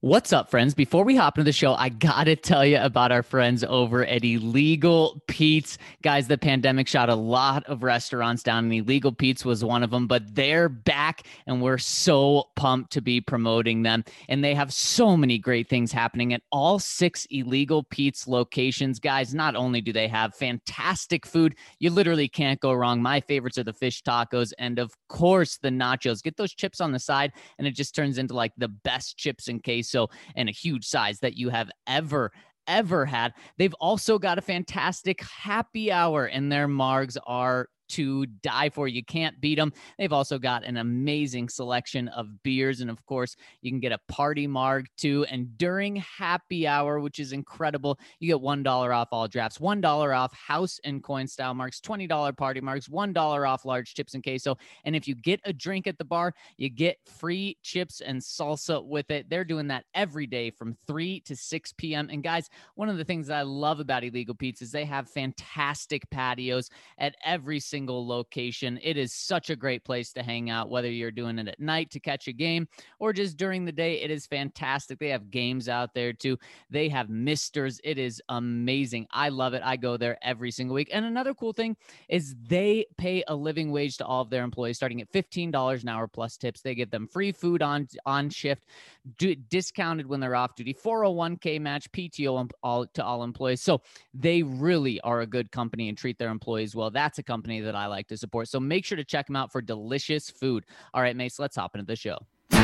What's up, friends? Before we hop into the show, I gotta tell you about our friends over at Illegal Pete's. Guys, the pandemic shot a lot of restaurants down, and Illegal Pete's was one of them, but they're back, and we're so pumped to be promoting them. And they have so many great things happening at all 6 Illegal Pete's locations. Guys, not only do they have fantastic food, you literally can't go wrong. My favorites are the fish tacos, and of course, the nachos. Get those chips on the side, and it just turns into like the best chips and queso and a huge size that you have ever had. They've also got a fantastic happy hour, and their margs are to die for. You can't beat them. They've also got an amazing selection of beers, and of course, you can get a party marg too. And during happy hour, which is incredible, you get $1 off all drafts, $1 off house and coin style marks, $20 party marks, $1 off large chips and queso. And if you get a drink at the bar, you get free chips and salsa with it. They're doing that every day from 3 to 6 p.m. And guys, one of the things that I love about Illegal Pete's is they have fantastic patios at every single location. It is such a great place to hang out, whether you're doing it at night to catch a game or just during the day. It is fantastic. They have games out there too. They have misters. It is amazing. I love it. I go there every single week. And another cool thing is they pay a living wage to all of their employees, starting at $15 an hour plus tips. They give them free food on shift, discounted when they're off duty, 401k match, PTO to all employees. So they really are a good company and treat their employees well. That's a company that I like to support. So make sure to check them out for delicious food. All right, Mace, let's hop into the show.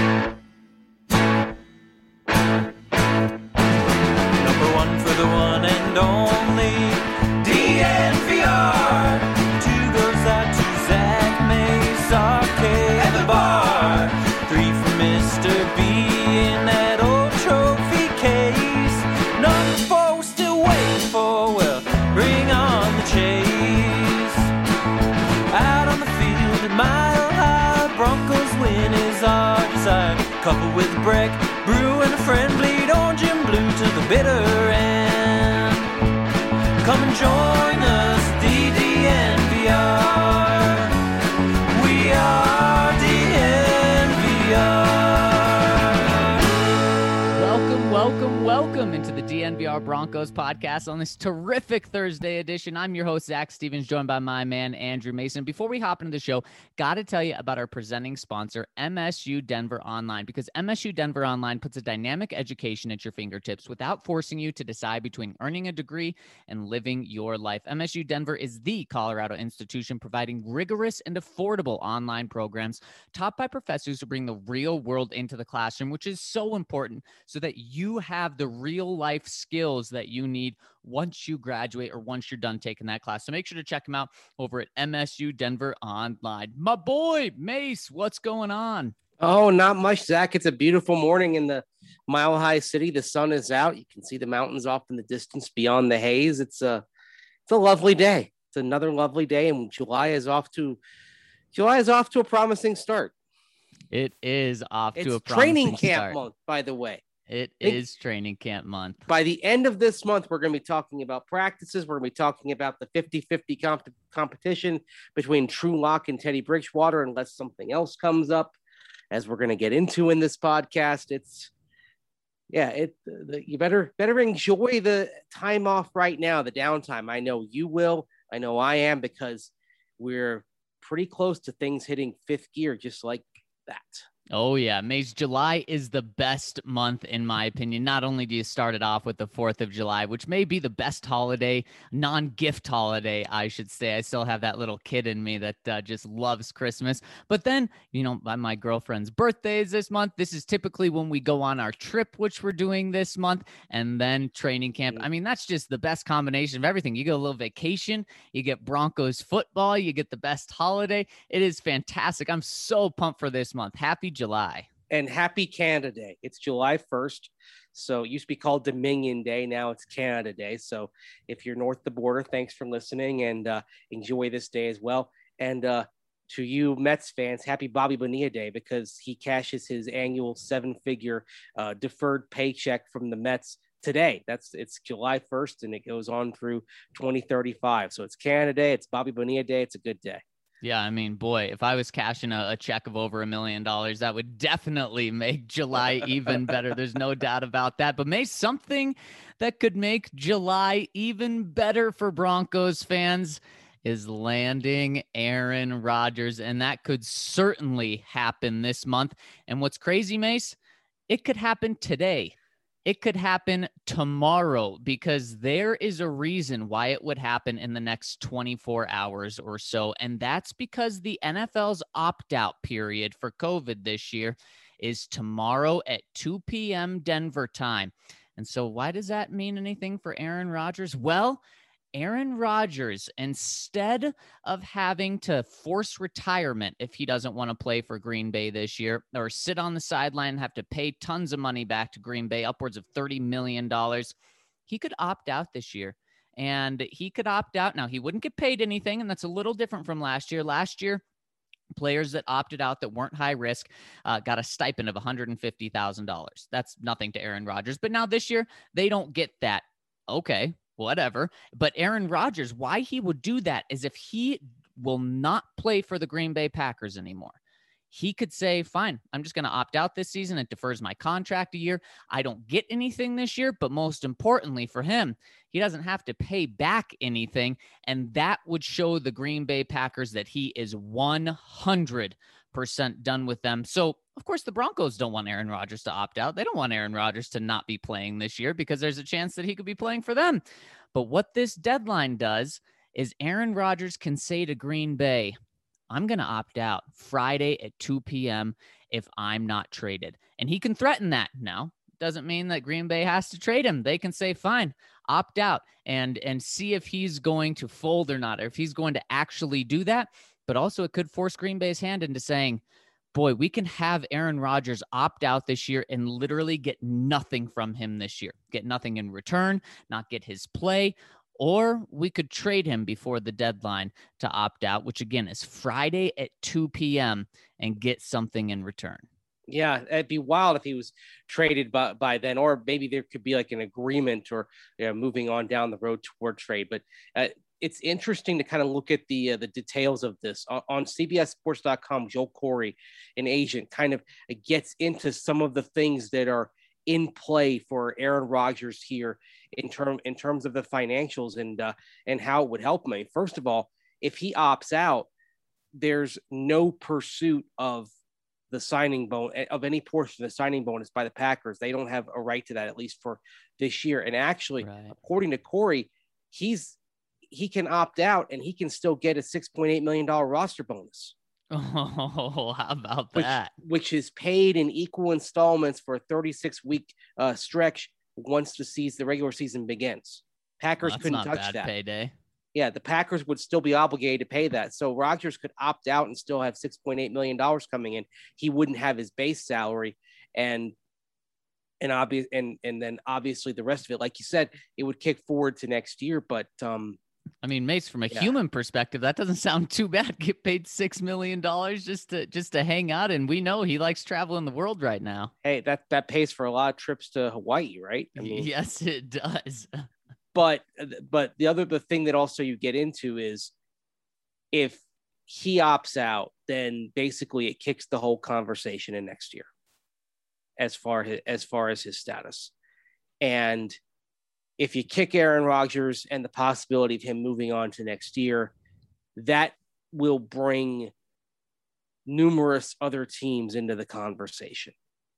Number one for the one and only DNVR. Two goes out to Zach Mace, Arcade, and the bar. Three for Mr. B in that old trophy case. Number four, we're still waiting for, well, bring on the chase. Out on the field at Mile High, Broncos win is our desire. Couple with Breck, Brew, and a friend bleed orange and blue to the bitter end. Come and join us, DNVR. We are DNVR. Welcome into the DNVR Broncos podcast on this terrific Thursday edition. I'm your host, Zach Stevens, joined by my man, Andrew Mason. Before we hop into the show, got to tell you about our presenting sponsor, MSU Denver Online, because MSU Denver Online puts a dynamic education at your fingertips without forcing you to decide between earning a degree and living your life. MSU Denver is the Colorado institution providing rigorous and affordable online programs taught by professors who bring the real world into the classroom, which is so important so that you have the real life skills that you need once you graduate or once you're done taking that class. So make sure to check them out over at MSU Denver Online. My boy, Mace, what's going on? Oh, not much, Zach. It's a beautiful morning in the Mile High City. The sun is out. You can see the mountains off in the distance beyond the haze. It's a lovely day. It's another lovely day, and July is off to a promising start. It is off to a promising training camp start. Month, by the way. It is training camp month. By the end of this month, we're going to be talking about practices. We're going to be talking about the 50-50 competition between True Lock and Teddy Bridgewater, unless something else comes up, as we're going to get into in this podcast. You better enjoy the time off right now, the downtime. I know you will. I know I am, because we're pretty close to things hitting fifth gear, just like that. Oh, yeah. Mace, July is the best month, in my opinion. Not only do you start it off with the 4th of July, which may be the best holiday, non-gift holiday, I should say. I still have that little kid in me that just loves Christmas. But then, my girlfriend's birthday is this month. This is typically when we go on our trip, which we're doing this month, and then training camp. I mean, that's just the best combination of everything. You get a little vacation, you get Broncos football, you get the best holiday. It is fantastic. I'm so pumped for this month. Happy July. And happy Canada Day. It's July 1st. So it used to be called Dominion Day. Now it's Canada Day. So if you're north of the border, thanks for listening, and enjoy this day as well. And to you Mets fans, happy Bobby Bonilla Day, because he cashes his annual 7-figure deferred paycheck from the Mets today. It's July 1st, and it goes on through 2035. So it's Canada Day. It's Bobby Bonilla Day. It's a good day. Yeah, I mean, boy, if I was cashing a check of over $1 million, that would definitely make July even better. There's no doubt about that. But Mace, something that could make July even better for Broncos fans is landing Aaron Rodgers, and that could certainly happen this month. And what's crazy, Mace, it could happen today. It could happen tomorrow, because there is a reason why it would happen in the next 24 hours or so. And that's because the NFL's opt-out period for COVID this year is tomorrow at 2 p.m. Denver time. And so why does that mean anything for Aaron Rodgers? Well, Aaron Rodgers, instead of having to force retirement if he doesn't want to play for Green Bay this year, or sit on the sideline and have to pay tons of money back to Green Bay, upwards of $30 million, he could opt out this year. And he could opt out. Now, he wouldn't get paid anything, and that's a little different from last year. Last year, players that opted out that weren't high risk got a stipend of $150,000. That's nothing to Aaron Rodgers. But now this year, they don't get that. Okay, whatever. But Aaron Rodgers, why he would do that is if he will not play for the Green Bay Packers anymore. He could say, fine, I'm just going to opt out this season. It defers my contract a year. I don't get anything this year, but most importantly for him, he doesn't have to pay back anything. And that would show the Green Bay Packers that he is 100% done with them. So, of course, the Broncos don't want Aaron Rodgers to opt out. They don't want Aaron Rodgers to not be playing this year, because there's a chance that he could be playing for them. But what this deadline does is Aaron Rodgers can say to Green Bay, I'm going to opt out Friday at 2 p.m. if I'm not traded. And he can threaten that. Now, doesn't mean that Green Bay has to trade him. They can say, fine, opt out and see if he's going to fold or not, or if he's going to actually do that. But also it could force Green Bay's hand into saying, boy, we can have Aaron Rodgers opt out this year and literally get nothing from him this year, get nothing in return, not get his play. Or we could trade him before the deadline to opt out, which again is Friday at 2 p.m. and get something in return. Yeah, it'd be wild if he was traded by then, or maybe there could be like an agreement, or moving on down the road toward trade. But it's interesting to kind of look at the details of this on CBSSports.com. Joel Corey, an agent, kind of gets into some of the things that are in play for Aaron Rodgers here in terms of the financials and how it would help him. First of all, if he opts out, there's no pursuit of the signing bonus, of any portion of the signing bonus by the Packers. They don't have a right to that, at least for this year. And actually, according to Corey, he can opt out and he can still get a $6.8 million roster bonus. Oh, how about that? Which is paid in equal installments for a 36-week stretch once the regular season begins. Packers couldn't touch that. Payday. Yeah, the Packers would still be obligated to pay that. So Rodgers could opt out and still have $6.8 million coming in. He wouldn't have his base salary, and then obviously the rest of it, like you said, it would kick forward to next year. But I mean, Mace, from a human perspective, that doesn't sound too bad. Get paid $6 million just to hang out, and we know he likes traveling the world right now. Hey, that pays for a lot of trips to Hawaii, right? I mean, yes, it does. But the thing that also you get into is if he opts out, then basically it kicks the whole conversation in next year, as far as his status. And if you kick Aaron Rodgers and the possibility of him moving on to next year, that will bring numerous other teams into the conversation.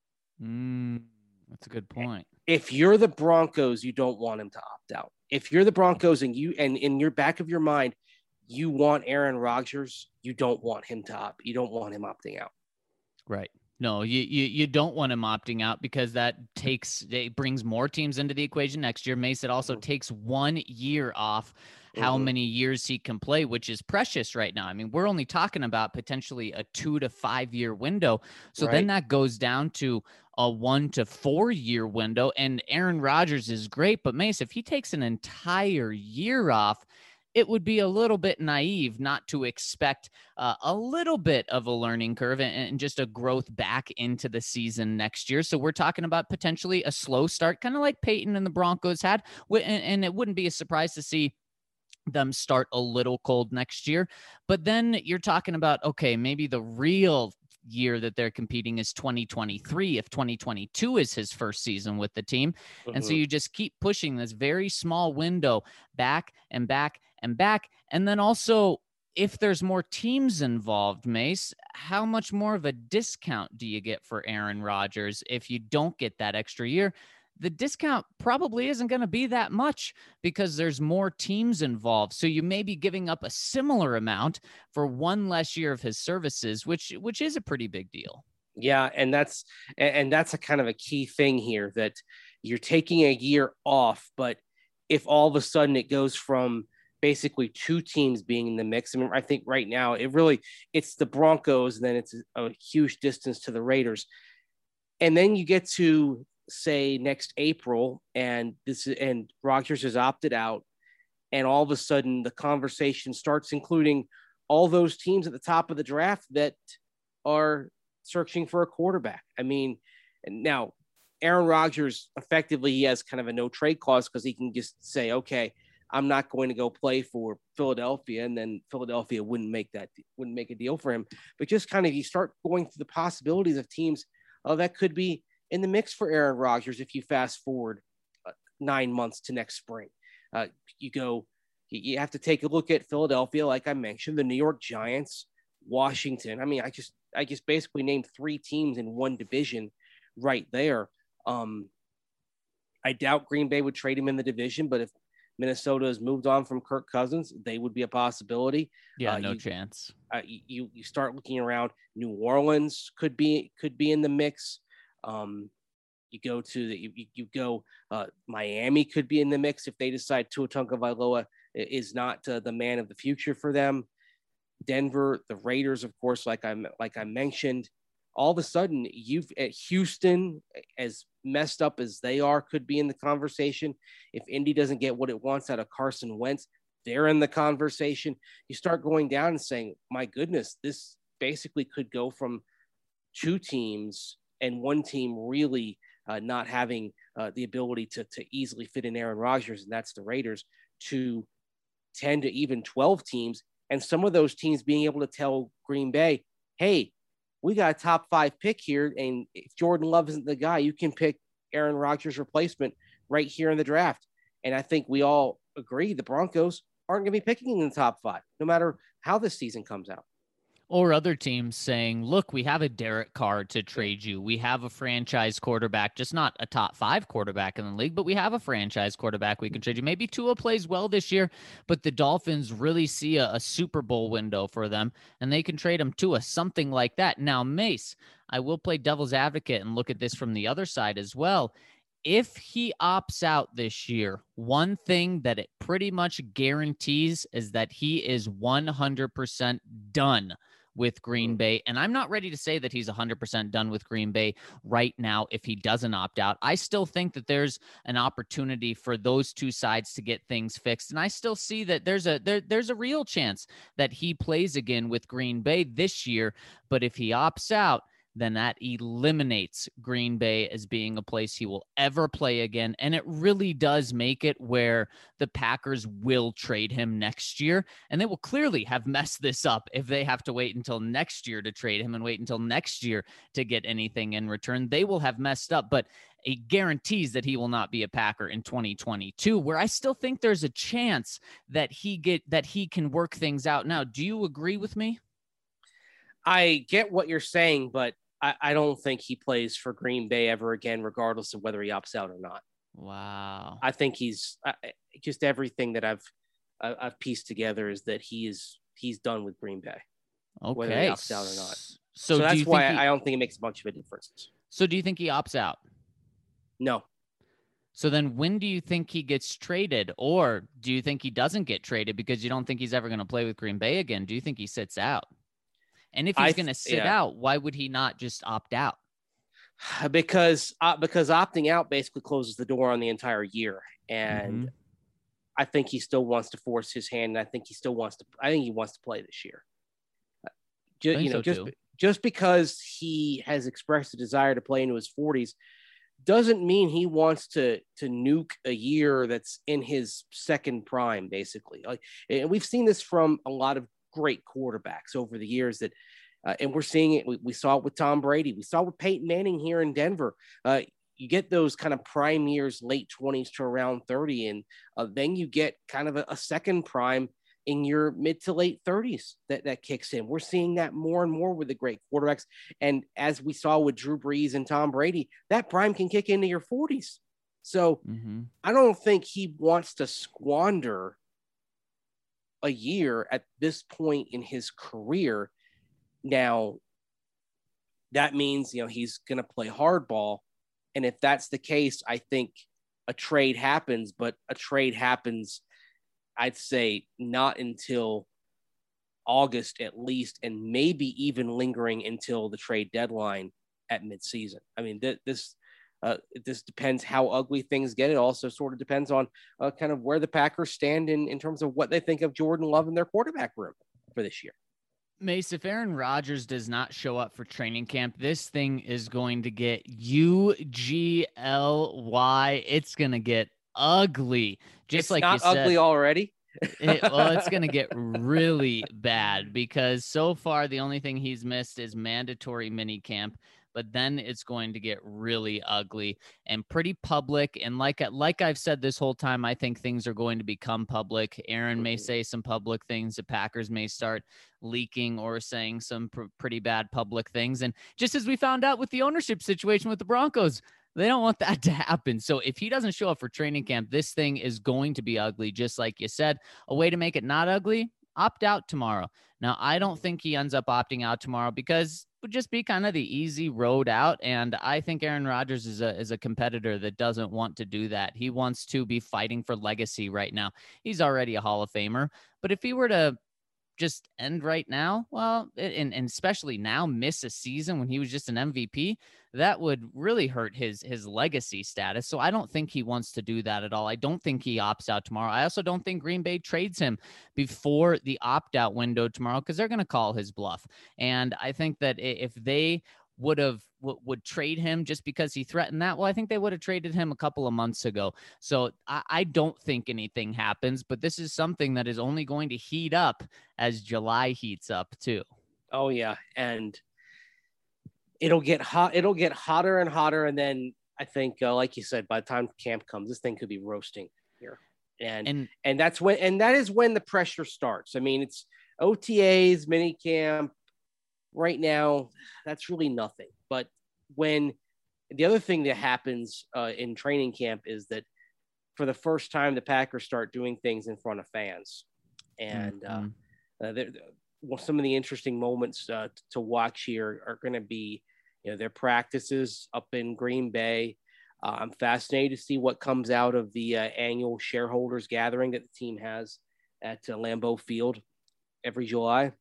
That's a good point. If you're the Broncos, you don't want him to opt out. If you're the Broncos and in your back of your mind, you want Aaron Rodgers, you don't want him you don't want him opting out. Right. No, you don't want him opting out, because it brings more teams into the equation next year. Mace, it also takes 1 year off how many years he can play, which is precious right now. I mean, we're only talking about potentially a 2 to 5 year window. So then that goes down to a 1 to 4 year window. And Aaron Rodgers is great, but Mace, if he takes an entire year off, it would be a little bit naive not to expect a little bit of a learning curve and just a growth back into the season next year. So we're talking about potentially a slow start, kind of like Peyton and the Broncos had. And it wouldn't be a surprise to see them start a little cold next year. But then you're talking about, okay, maybe the real year that they're competing is 2023 if 2022 is his first season with the team. And so you just keep pushing this very small window back and back and back. And then also, if there's more teams involved, Mace, how much more of a discount do you get for Aaron Rodgers if you don't get that extra year? The discount probably isn't going to be that much because there's more teams involved. So you may be giving up a similar amount for one less year of his services, which is a pretty big deal. Yeah, and that's a kind of a key thing here, that you're taking a year off, but if all of a sudden it goes from basically two teams being in the mix, I mean, I think right now it's the Broncos, and then it's a huge distance to the Raiders, and then you get to say next April, and Rodgers has opted out, and all of a sudden the conversation starts including all those teams at the top of the draft that are searching for a quarterback. I mean, now Aaron Rodgers, effectively, he has kind of a no trade clause because he can just say, okay, I'm not going to go play for Philadelphia, and then Philadelphia wouldn't make a deal for him. But just kind of, you start going through the possibilities of teams that could be in the mix for Aaron Rodgers if you fast forward 9 months to next spring. You have to take a look at Philadelphia, like I mentioned, the New York Giants, Washington. I mean, I just basically named three teams in one division right there. I doubt Green Bay would trade him in the division, but if Minnesota has moved on from Kirk Cousins, they would be a possibility. Yeah, no chance. You start looking around. New Orleans could be in the mix. Miami could be in the mix if they decide Tua Tagovailoa is not the man of the future for them. Denver, the Raiders, of course, like I mentioned. All of a sudden, Houston, as messed up as they are, could be in the conversation. If Indy doesn't get what it wants out of Carson Wentz, they're in the conversation. You start going down and saying, my goodness, this basically could go from two teams and one team really not having the ability to easily fit in Aaron Rodgers, and that's the Raiders, to 10 to even 12 teams. And some of those teams being able to tell Green Bay, hey, we got a top 5 pick here, and if Jordan Love isn't the guy, you can pick Aaron Rodgers' replacement right here in the draft. And I think we all agree the Broncos aren't going to be picking in the top 5, no matter how this season comes out. Or other teams saying, look, we have a Derek Carr to trade you. We have a franchise quarterback, just not a top 5 quarterback in the league, but we have a franchise quarterback we can trade you. Maybe Tua plays well this year, but the Dolphins really see a Super Bowl window for them, and they can trade him to something like that. Now, Mace, I will play devil's advocate and look at this from the other side as well. If he opts out this year, one thing that it pretty much guarantees is that he is 100% done with Green Bay. And I'm not ready to say that he's 100% done with Green Bay right now if he doesn't opt out. I still think that there's an opportunity for those two sides to get things fixed. And I still see that there's a real chance that he plays again with Green Bay this year. But if he opts out, then that eliminates Green Bay as being a place he will ever play again. And it really does make it where the Packers will trade him next year. And they will clearly have messed this up if they have to wait until next year to trade him and wait until next year to get anything in return. They will have messed up, but it guarantees that he will not be a Packer in 2022, where I still think there's a chance that he can work things out. Now, do you agree with me? I get what you're saying, but I don't think he plays for Green Bay ever again, regardless of whether he opts out or not. Wow. I think he's just everything that I've pieced together is that he's done with Green Bay, whether he opts out or not. So that's why I don't think it makes much of a difference. So do you think he opts out? No. So then when do you think he gets traded, or do you think he doesn't get traded because you don't think he's ever going to play with Green Bay again? Do you think he sits out? And if he's going to sit out, why would he not just opt out? Because opting out basically closes the door on the entire year. And I think he still wants to force his hand. And I think he wants to play this year. Just because he has expressed a desire to play into his 40s doesn't mean he wants to nuke a year that's in his second prime, basically. Like, and we've seen this from a lot of great quarterbacks over the years that, and we're seeing it. We saw it with Tom Brady. We saw it with Peyton Manning here in Denver. You get those kind of prime years, late 20s to around 30, and then you get kind of a second prime in your mid to late 30s that kicks in. We're seeing that more and more with the great quarterbacks. And as we saw with Drew Brees and Tom Brady, that prime can kick into your 40s. So I don't think he wants to squander a year at this point in his career. Now, that means, he's going to play hardball. And if that's the case, I think a trade happens, but a trade happens, I'd say, not until August at least, and maybe even lingering until the trade deadline at midseason. I mean, this depends how ugly things get. It also sort of depends on kind of where the Packers stand in terms of what they think of Jordan Love in their quarterback room for this year. Mace, if Aaron Rodgers does not show up for training camp, this thing is going to get UGLY. It's going to get ugly. It's like not ugly already. It's going to get really bad because so far the only thing he's missed is mandatory mini camp, but then it's going to get really ugly and pretty public. And like I've said this whole time, I think things are going to become public. Aaron may say some public things. The Packers may start leaking or saying some pretty bad public things. And just as we found out with the ownership situation with the Broncos, they don't want that to happen. So if he doesn't show up for training camp, this thing is going to be ugly. Just like you said, a way to make it not ugly, opt out tomorrow. Now, I don't think he ends up opting out tomorrow because it would just be kind of the easy road out. And I think Aaron Rodgers is a competitor that doesn't want to do that. He wants to be fighting for legacy right now. He's already a Hall of Famer. But if he were to just end right now, well, and especially now miss a season when he was just an MVP, that would really hurt his legacy status. So I don't think he wants to do that at all. I don't think he opts out tomorrow. I also don't think Green Bay trades him before the opt-out window tomorrow because they're going to call his bluff. And I think that if they would trade him just because he threatened that, well, I think they would have traded him a couple of months ago. So I don't think anything happens, but this is something that is only going to heat up as July heats up too. Oh yeah. And it'll get hot. It'll get hotter and hotter. And then I think, like you said, by the time camp comes, this thing could be roasting here. And that is when the pressure starts. I mean, it's OTAs, mini camp. Right now, that's really nothing. But when the other thing that happens in training camp is that for the first time, the Packers start doing things in front of fans. And some of the interesting moments to watch here are going to be, their practices up in Green Bay. I'm fascinated to see what comes out of the annual shareholders gathering that the team has at Lambeau Field every July.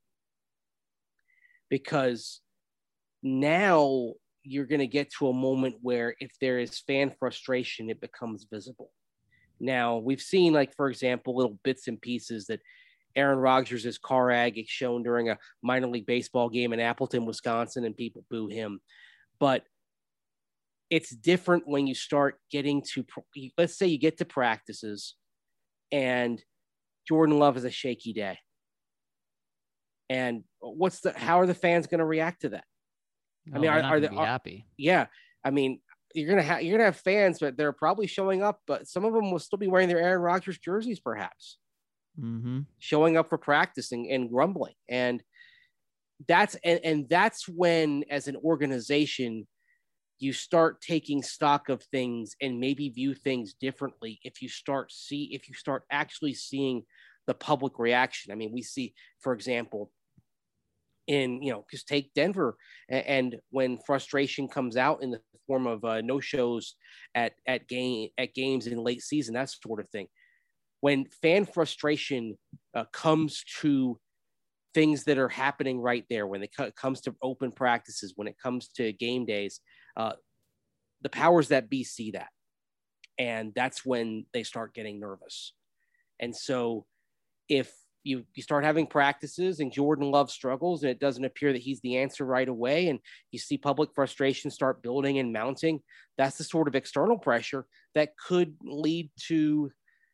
Because now you're going to get to a moment where if there is fan frustration, it becomes visible. Now, we've seen, like, for example, little bits and pieces that Aaron Rodgers' car ag is shown during a minor league baseball game in Appleton, Wisconsin, and people boo him. But it's different when you start getting to, let's say you get to practices and Jordan Love has a shaky day. And how are the fans going to react to that? I mean, are they happy? Yeah. I mean, you're going to have fans, but they're probably showing up, but some of them will still be wearing their Aaron Rodgers jerseys, perhaps showing up for practice and grumbling. And that's when, as an organization, you start taking stock of things and maybe view things differently. If you start actually seeing the public reaction. I mean, we see, for example, just take Denver, and when frustration comes out in the form of no shows at games in late season, that sort of thing. When fan frustration comes to things that are happening right there, when it comes to open practices, when it comes to game days, the powers that be see that, and that's when they start getting nervous. And so, if you start having practices and Jordan Love struggles, and it doesn't appear that he's the answer right away, and you see public frustration start building and mounting, that's the sort of external pressure that could lead to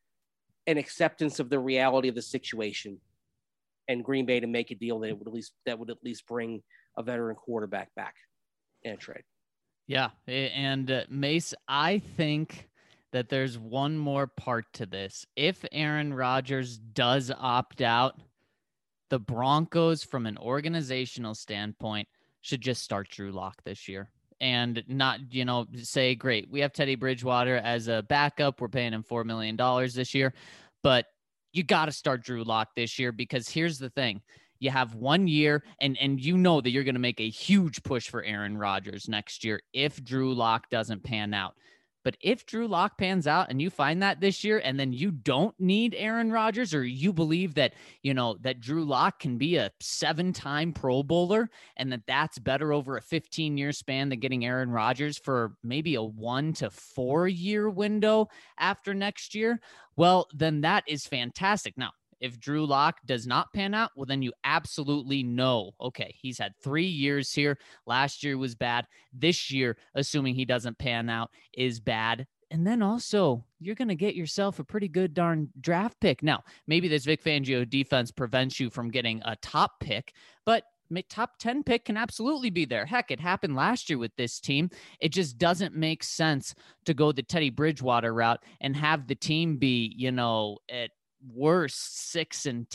an acceptance of the reality of the situation and Green Bay to make a deal that would at least bring a veteran quarterback back in a trade. Yeah. And Mace, I think that there's one more part to this. If Aaron Rodgers does opt out, the Broncos, from an organizational standpoint, should just start Drew Lock this year and not, say, great, we have Teddy Bridgewater as a backup. We're paying him $4 million this year, but you got to start Drew Lock this year, because here's the thing. You have 1 year, and you know that you're going to make a huge push for Aaron Rodgers next year if Drew Lock doesn't pan out. But if Drew Lock pans out and you find that this year, and then you don't need Aaron Rodgers, or you believe that, that Drew Lock can be a 7-time Pro Bowler and that's better over a 15-year span than getting Aaron Rodgers for maybe a 1 to 4 year window after next year, well, then that is fantastic. Now, if Drew Lock does not pan out, well, then you absolutely know, okay, he's had 3 years here. Last year was bad. This year, assuming he doesn't pan out, is bad. And then also, you're going to get yourself a pretty good darn draft pick. Now, maybe this Vic Fangio defense prevents you from getting a top pick, but top 10 pick can absolutely be there. Heck, it happened last year with this team. It just doesn't make sense to go the Teddy Bridgewater route and have the team be, at worst 6-10,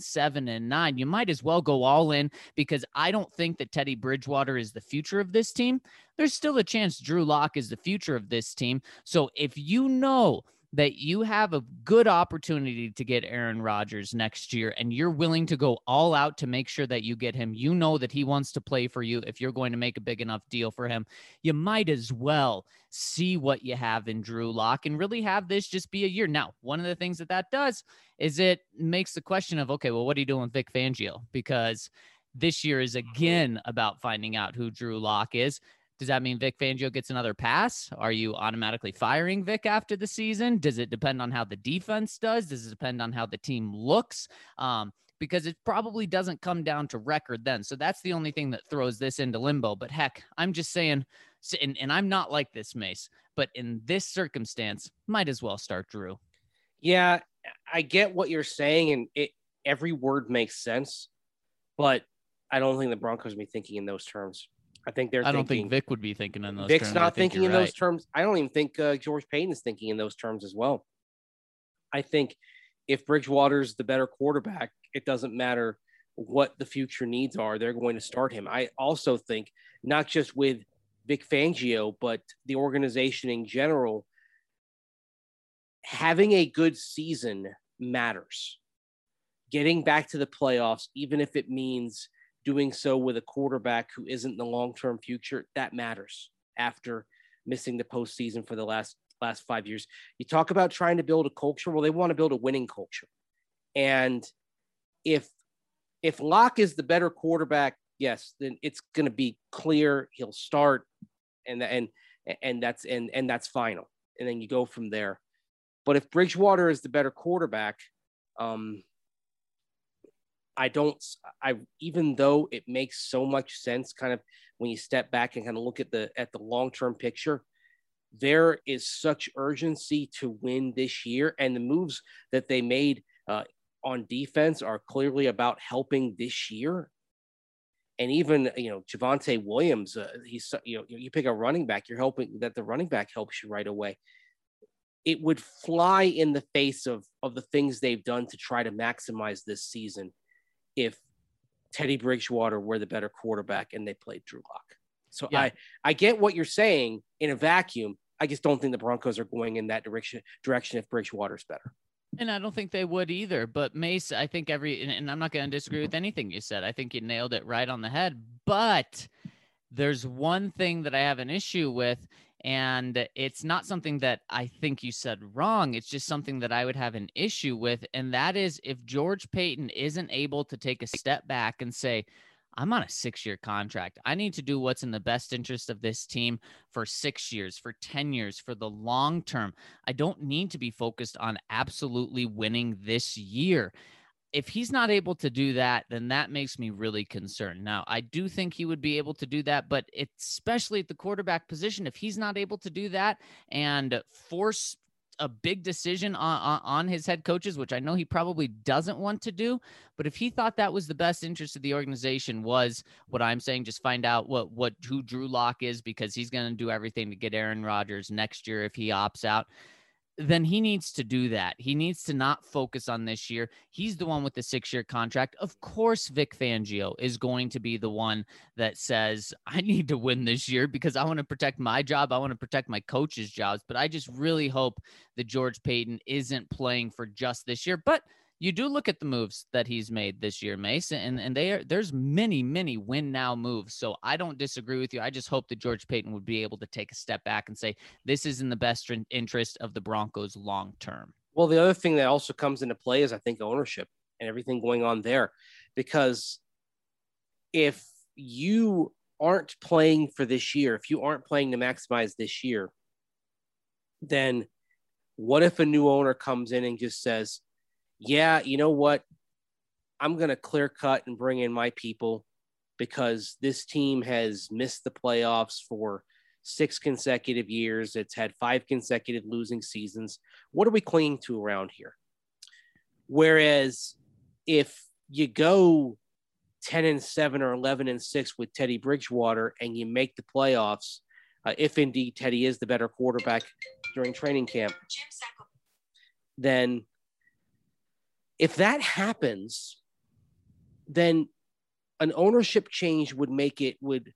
7-9. You might as well go all in, because I don't think that Teddy Bridgewater is the future of this team. There's still a chance Drew Lock is the future of this team. So if you know that you have a good opportunity to get Aaron Rodgers next year, and you're willing to go all out to make sure that you get him, you know that he wants to play for you. If you're going to make a big enough deal for him, you might as well see what you have in Drew Lock and really have this just be a year. Now, one of the things that does is it makes the question of, okay, well, what are you doing with Vic Fangio? Because this year is again about finding out who Drew Lock is. Does that mean Vic Fangio gets another pass? Are you automatically firing Vic after the season? Does it depend on how the defense does? Does it depend on how the team looks? Because it probably doesn't come down to record then. So that's the only thing that throws this into limbo. But heck, I'm just saying, and I'm not like this, Mace, but in this circumstance, might as well start Drew. Yeah, I get what you're saying, and every word makes sense, but I don't think the Broncos will be thinking in those terms. I don't think Vic would be thinking in those terms. Vic's not thinking in those terms. I don't even think George Paton is thinking in those terms as well. I think if Bridgewater's the better quarterback, it doesn't matter what the future needs are. They're going to start him. I also think not just with Vic Fangio, but the organization in general, having a good season matters. Getting back to the playoffs, even if it means doing so with a quarterback who isn't the long-term future, that matters after missing the postseason for the last 5 years. You talk about trying to build a culture. Well, they want to build a winning culture. And if Locke is the better quarterback, yes, then it's going to be clear he'll start, and that's final. And then you go from there. But if Bridgewater is the better quarterback, even though it makes so much sense kind of when you step back and kind of look at the long-term picture, there is such urgency to win this year. And the moves that they made on defense are clearly about helping this year. And even, Javonte Williams, you pick a running back, you're hoping that the running back helps you right away. It would fly in the face of the things they've done to try to maximize this season if Teddy Bridgewater were the better quarterback and they played Drew Lock. So yeah. I get what you're saying in a vacuum. I just don't think the Broncos are going in that direction if Bridgewater's better. And I don't think they would either. But Mace, I think and I'm not going to disagree with anything you said. I think you nailed it right on the head. But there's one thing that I have an issue with, and it's not something that I think you said wrong. It's just something that I would have an issue with. And that is if George Paton isn't able to take a step back and say, I'm on a 6-year contract. I need to do what's in the best interest of this team for 6 years, for 10 years, for the long term. I don't need to be focused on absolutely winning this year. if he's not able to do that, then that makes me really concerned. Now, I do think he would be able to do that, but especially at the quarterback position, if he's not able to do that and force a big decision on his head coaches, which I know he probably doesn't want to do, but if he thought that was the best interest of the organization, was what I'm saying, just find out who Drew Lock is, because he's going to do everything to get Aaron Rodgers next year if he opts out, then he needs to do that. He needs to not focus on this year. He's the one with the 6-year contract. Of course, Vic Fangio is going to be the one that says, I need to win this year because I want to protect my job. I want to protect my coaches' jobs. But I just really hope that George Paton isn't playing for just this year. But you do look at the moves that he's made this year, Mace, and there's many win now moves. So I don't disagree with you. I just hope that George Paton would be able to take a step back and say, this is in the best interest of the Broncos long term. Well, the other thing that also comes into play is, I think, ownership and everything going on there. Because if you aren't playing for this year, if you aren't playing to maximize this year, then what if a new owner comes in and just says, yeah, you know what? I'm going to clear cut and bring in my people because this team has missed the playoffs for 6 consecutive years. It's had 5 consecutive losing seasons. What are we clinging to around here? Whereas if you go 10-7 or 11-6 with Teddy Bridgewater and you make the playoffs, if indeed Teddy is the better quarterback during training camp, then if that happens, then an ownership change would make it would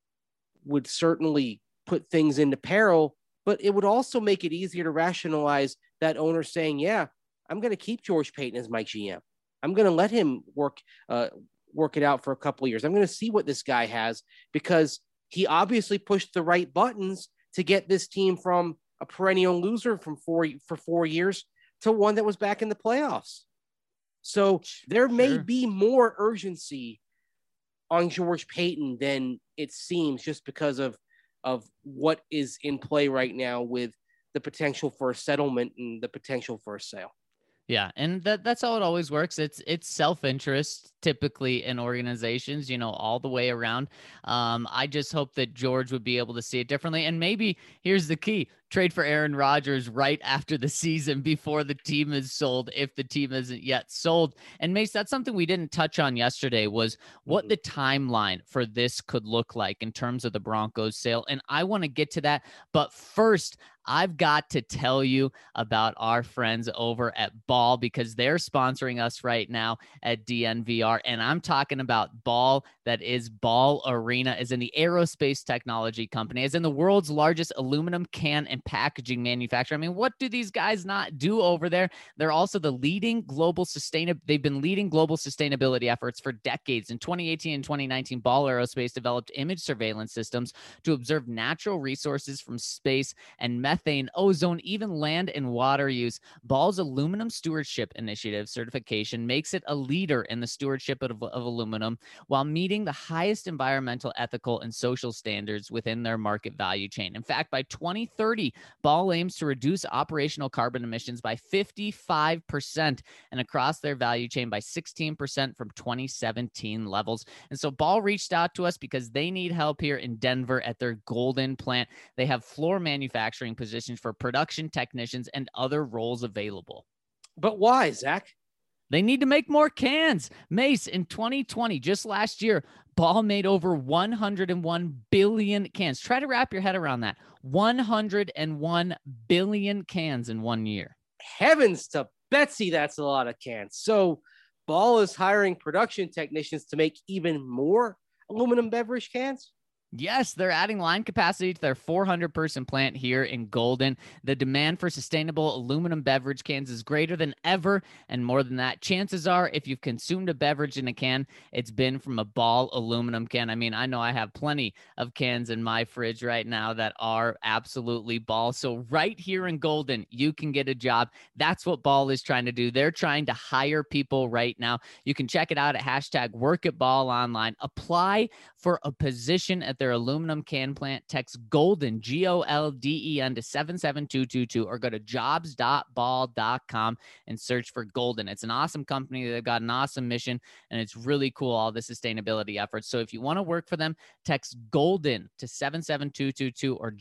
certainly put things into peril, but it would also make it easier to rationalize that owner saying, yeah, I'm going to keep George Paton as my GM. I'm going to let him work it out for a couple of years. I'm going to see what this guy has, because he obviously pushed the right buttons to get this team from a perennial loser for 4 years to one that was back in the playoffs. So there may be more urgency on George Paton than it seems, just because of what is in play right now with the potential for a settlement and the potential for a sale. Yeah, and that's how it always works. It's self-interest typically in organizations, all the way around. I just hope that George would be able to see it differently. And maybe here's the key: trade for Aaron Rodgers right after the season, before the team is sold, if the team isn't yet sold. And Mace, that's something we didn't touch on yesterday, was what the timeline for this could look like in terms of the Broncos sale. And I want to get to that. But first, I've got to tell you about our friends over at Ball, because they're sponsoring us right now at DNVR. And I'm talking about Ball, that is Ball Arena, as in the aerospace technology company, as in the world's largest aluminum can and packaging manufacturer. I mean, what do these guys not do over there? They're also the leading global they've been leading global sustainability efforts for decades. In 2018 and 2019, Ball Aerospace developed image surveillance systems to observe natural resources from space and methane, ozone, even land and water use. Ball's Aluminum Stewardship Initiative certification makes it a leader in the stewardship of aluminum, while meeting the highest environmental, ethical, and social standards within their market value chain. In fact, by 2030, Ball aims to reduce operational carbon emissions by 55% and across their value chain by 16% from 2017 levels. And so Ball reached out to us because they need help here in Denver at their Golden plant. They have floor manufacturing positions for production technicians and other roles available. But why, Zach? They need to make more cans. Mace, in 2020, just last year, Ball made over 101 billion cans. Try to wrap your head around that. 101 billion cans in 1 year. Heavens to Betsy, that's a lot of cans. So Ball is hiring production technicians to make even more aluminum beverage cans? Yes, they're adding line capacity to their 400-person plant here in Golden. The demand for sustainable aluminum beverage cans is greater than ever, and more than that, chances are if you've consumed a beverage in a can, it's been from a Ball aluminum can. I mean, I know I have plenty of cans in my fridge right now that are absolutely Ball. So right here in Golden, you can get a job. That's what Ball is trying to do. They're trying to hire people right now. You can check it out at #WorkAtBall online. Apply for a position at their aluminum can plant, text GOLDEN, GOLDEN to 77222 or go to jobs.ball.com and search for Golden. It's an awesome company. They've got an awesome mission, and it's really cool, all the sustainability efforts. So if you want to work for them, text GOLDEN to 77222 or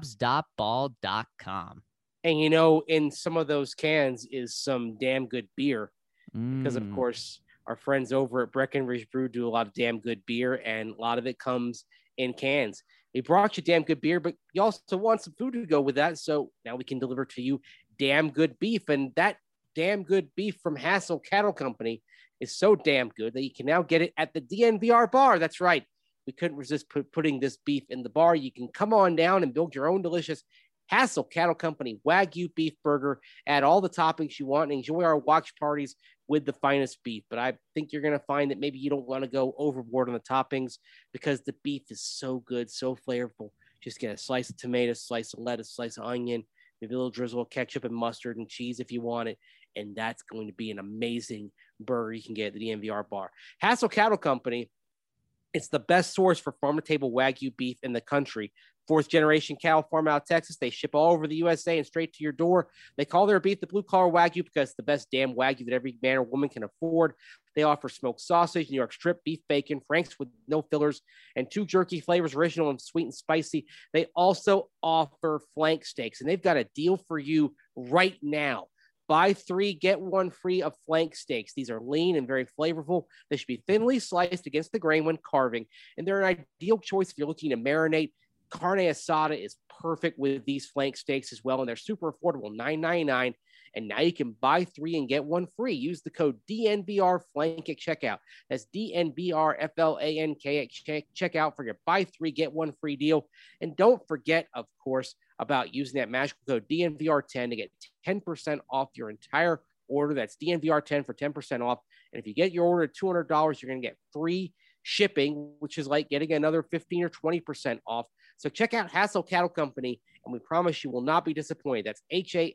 jobs.ball.com. And in some of those cans is some damn good beer, because of course our friends over at Breckenridge Brew do a lot of damn good beer, and a lot of it comes in cans. They brought you damn good beer, but you also want some food to go with that. So now we can deliver to you damn good beef, and that damn good beef from Hassel Cattle Company is so damn good that you can now get it at the DNVR bar. That's right. We couldn't resist putting this beef in the bar. You can come on down and build your own delicious Hassel Cattle Company Wagyu beef burger. Add all the toppings you want and enjoy our watch parties with the finest beef. But I think you're going to find that maybe you don't want to go overboard on the toppings, because the beef is so good, so flavorful. Just get a slice of tomato, slice of lettuce, slice of onion, maybe a little drizzle of ketchup and mustard and cheese if you want it. And that's going to be an amazing burger you can get at the DNVR bar. Hassel Cattle Company, it's the best source for farm-to-table Wagyu beef in the country. Fourth-generation cattle farm out of Texas. They ship all over the USA and straight to your door. They call their beef the blue-collar Wagyu because it's the best damn Wagyu that every man or woman can afford. They offer smoked sausage, New York strip, beef bacon, Frank's with no fillers, and 2 jerky flavors, original and sweet and spicy. They also offer flank steaks, and they've got a deal for you right now. Buy 3, get 1 free of flank steaks. These are lean and very flavorful. They should be thinly sliced against the grain when carving, and they're an ideal choice if you're looking to marinate. Carne asada is perfect with these flank steaks as well, and they're super affordable, $9.99. And now you can buy 3 and get 1 free. Use the code DNVR Flank at checkout. That's DNVR FLANK at checkout for your buy 3, get 1 free deal. And don't forget, of course, about using that magical code DNVR10 to get 10% off your entire order. That's DNVR10 for 10% off. And if you get your order at $200, you're going to get free shipping, which is like getting another 15 or 20% off. So check out Hassel Cattle Company, and we promise you will not be disappointed. That's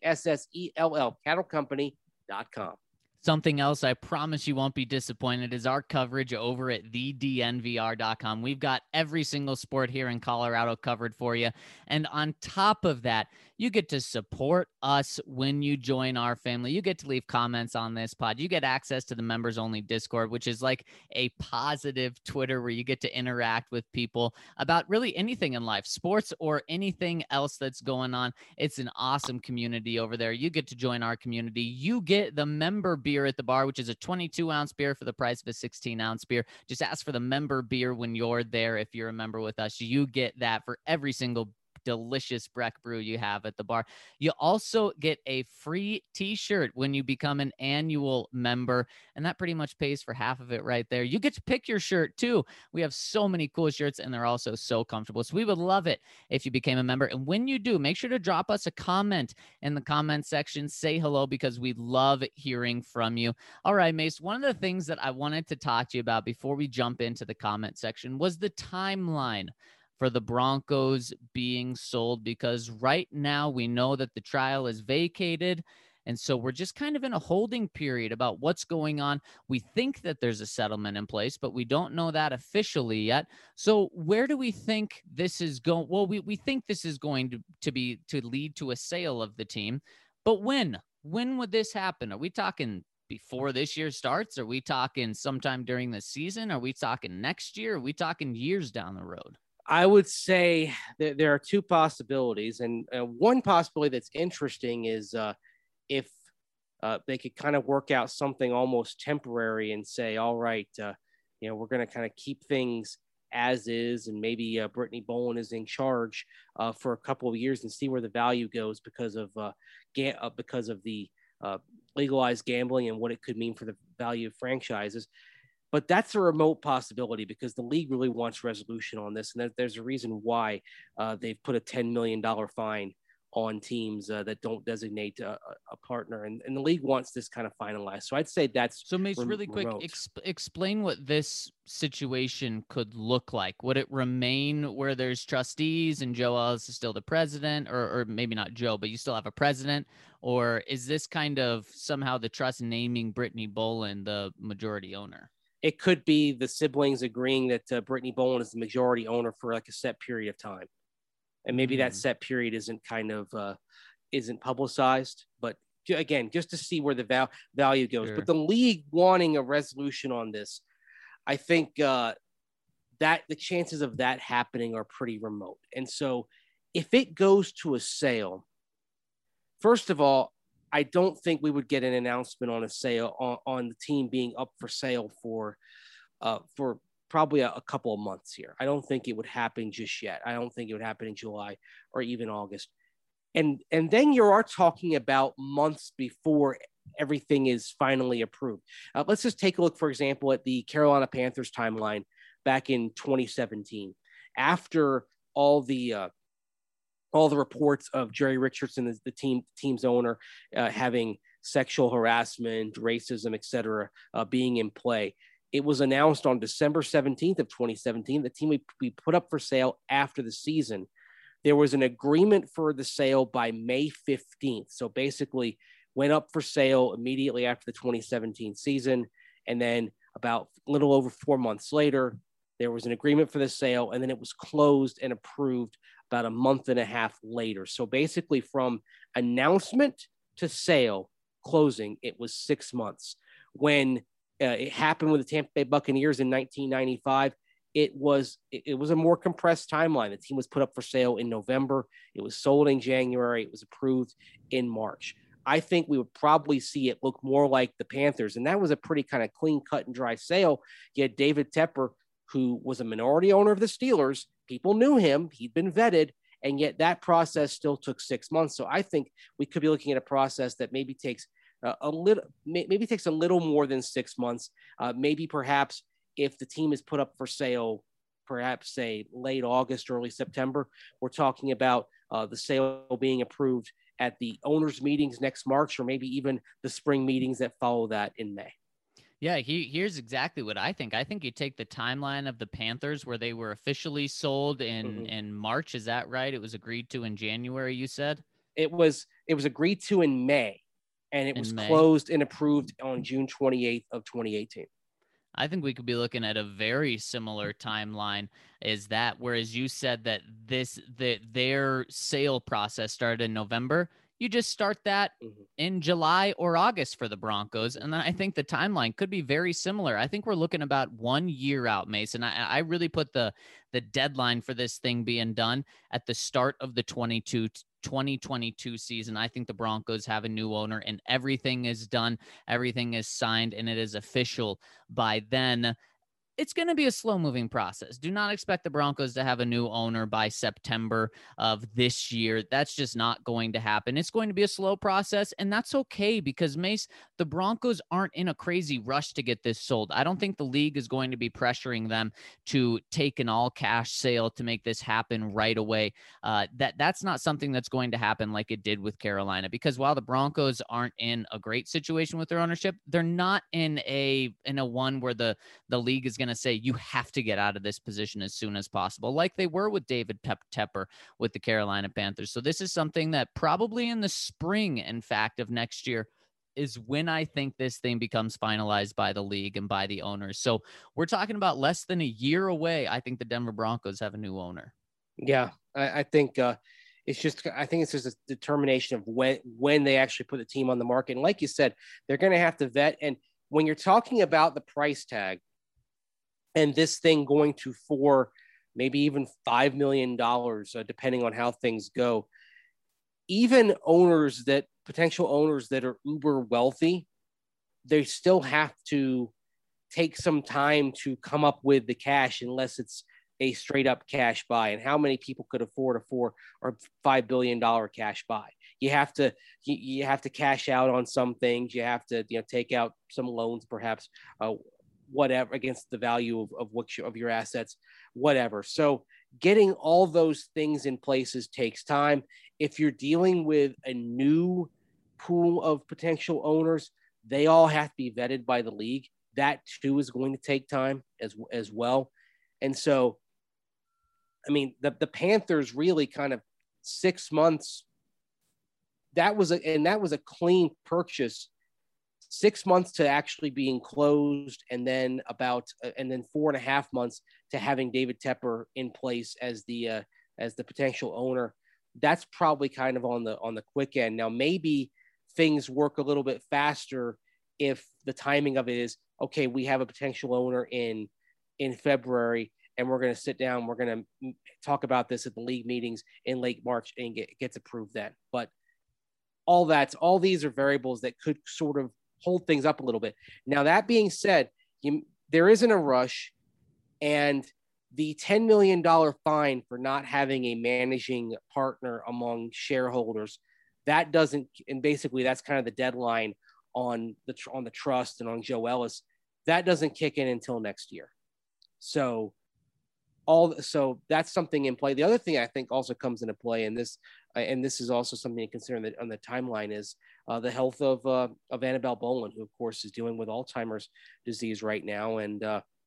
HASSELL, cattlecompany.com. Something else I promise you won't be disappointed is our coverage over at thednvr.com. We've got every single sport here in Colorado covered for you. And on top of that, you get to support us when you join our family. You get to leave comments on this pod. You get access to the members only Discord, which is like a positive Twitter where you get to interact with people about really anything in life, sports or anything else that's going on. It's an awesome community over there. You get to join our community. You get the member beer at the bar, which is a 22-ounce beer for the price of a 16-ounce beer. Just ask for the member beer when you're there. If you're a member with us, you get that for every single delicious Breck brew you have at the bar. You also get a free t-shirt when you become an annual member, and that pretty much pays for half of it right there. You get to pick your shirt too. We have so many cool shirts, and they're also so comfortable. So we would love it if you became a member. And when you do, make sure to drop us a comment in the comment section. Say hello, because we love hearing from you. All right, Mace, one of the things that I wanted to talk to you about before we jump into the comment section was the timeline for the Broncos being sold, because right now we know that the trial is vacated. And so we're just kind of in a holding period about what's going on. We think that there's a settlement in place, but we don't know that officially yet. So where do we think this is going? Well, we think this is going to lead to a sale of the team. But when would this happen? Are we talking before this year starts? Are we talking sometime during the season? Are we talking next year? Are we talking years down the road? I would say that there are 2 possibilities, and one possibility that's interesting is if they could kind of work out something almost temporary and say, all right, we're going to kind of keep things as is, and maybe Brittany Boland is in charge for a couple of years and see where the value goes because of the legalized gambling and what it could mean for the value of franchises. But that's a remote possibility because the league really wants resolution on this. And there's a reason why they've put a $10 million fine on teams that don't designate a partner. And the league wants this kind of finalized. So I'd say that's so. Mace, really quick, explain what this situation could look like. Would it remain where there's trustees and Joe Ellis is still the president, or maybe not Joe, but you still have a president? Or is this kind of somehow the trust naming Brittany Boland the majority owner? it could be the siblings agreeing that Brittany Boland is the majority owner for like a set period of time. And maybe that set period isn't isn't publicized, but again, just to see where the value goes. Sure. But the league wanting a resolution on this, I think that the chances of that happening are pretty remote. And so if it goes to a sale, first of all, I don't think we would get an announcement on a sale on the team being up for sale for probably a couple of months here. I don't think it would happen just yet. I don't think it would happen in July or even August. And then you are talking about months before everything is finally approved. Let's just take a look, for example, at the Carolina Panthers timeline back in 2017. After all the reports of Jerry Richardson, the team's owner, having sexual harassment, racism, etc., being in play. It was announced on December 17th of 2017. The team would be put up for sale after the season. There was an agreement for the sale by May 15th. So basically went up for sale immediately after the 2017 season. And then about a little over 4 months later, there was an agreement for the sale, and then it was closed and approved about a month and a half later. So basically from announcement to sale closing, it was 6 months. When it happened with the Tampa Bay Buccaneers in 1995, it was a more compressed timeline. The team was put up for sale in November. It was sold in January. It was approved in March. I think we would probably see it look more like the Panthers, and that was a pretty kind of clean, cut and dry sale. You had David Tepper, who was a minority owner of the Steelers. People knew him. He'd been vetted, and yet that process still took 6 months. So I think we could be looking at a process that maybe takes a little more than 6 months. Maybe perhaps if the team is put up for sale, perhaps say late August, early September, we're talking about the sale being approved at the owners' meetings next March, or maybe even the spring meetings that follow that in May. Yeah, here's exactly what I think. I think you take the timeline of the Panthers where they were officially sold in March. Is that right? It was agreed to in January, you said? It was agreed to in May, and it was closed and approved on June 28th of 2018. I think we could be looking at a very similar timeline as that, whereas you said that their sale process started in November. You just start that in July or August for the Broncos. And then I think the timeline could be very similar. I think we're looking about 1 year out, Mason. I really put the deadline for this thing being done at the start of the 2022 season. I think the Broncos have a new owner and everything is done. Everything is signed and it is official by then. It's going to be a slow-moving process. Do not expect the Broncos to have a new owner by September of this year. That's just not going to happen. It's going to be a slow process, and that's okay because, Mace, the Broncos aren't in a crazy rush to get this sold. I don't think the league is going to be pressuring them to take an all-cash sale to make this happen right away. That's not something that's going to happen like it did with Carolina, because while the Broncos aren't in a great situation with their ownership, they're not in a one where the league is going to say you have to get out of this position as soon as possible, like they were with David Tepper with the Carolina Panthers. So this is something that probably in the spring, in fact, of next year is when I think this thing becomes finalized by the league and by the owners. So we're talking about less than a year away. I think the Denver Broncos have a new owner. Yeah, I think it's just a determination of when they actually put the team on the market. And like you said, they're going to have to vet. And when you're talking about the price tag, and this thing going to $4, maybe even $5 million, depending on how things go. Even potential owners that are uber wealthy, they still have to take some time to come up with the cash unless it's a straight up cash buy. And how many people could afford a $4 or $5 billion cash buy? You have to cash out on some things. You have to take out some loans, perhaps. Whatever, against the value of your assets, whatever. So getting all those things in places takes time. If you're dealing with a new pool of potential owners, they all have to be vetted by the league. That too is going to take time as well. And so, I mean, the Panthers really kind of 6 months. That was a clean purchase 6 months to actually being closed, and then 4.5 months to having David Tepper in place as the potential owner. That's probably kind of on the quick end. Now, maybe things work a little bit faster if the timing of it is, okay, we have a potential owner in February, and we're going to sit down, we're going to talk about this at the league meetings in late March, and gets approved then. But all these are variables that could sort of hold things up a little bit. Now, that being said, there isn't a rush, and the $10 million fine for not having a managing partner among shareholders, that doesn't, and basically that's kind of the deadline on the trust and on Joe Ellis, that doesn't kick in until next year. So that's something in play. The other thing I think also comes into play, and this is also something to consider on the timeline, is the health of Annabelle Bolen, who of course is dealing with Alzheimer's disease right now. And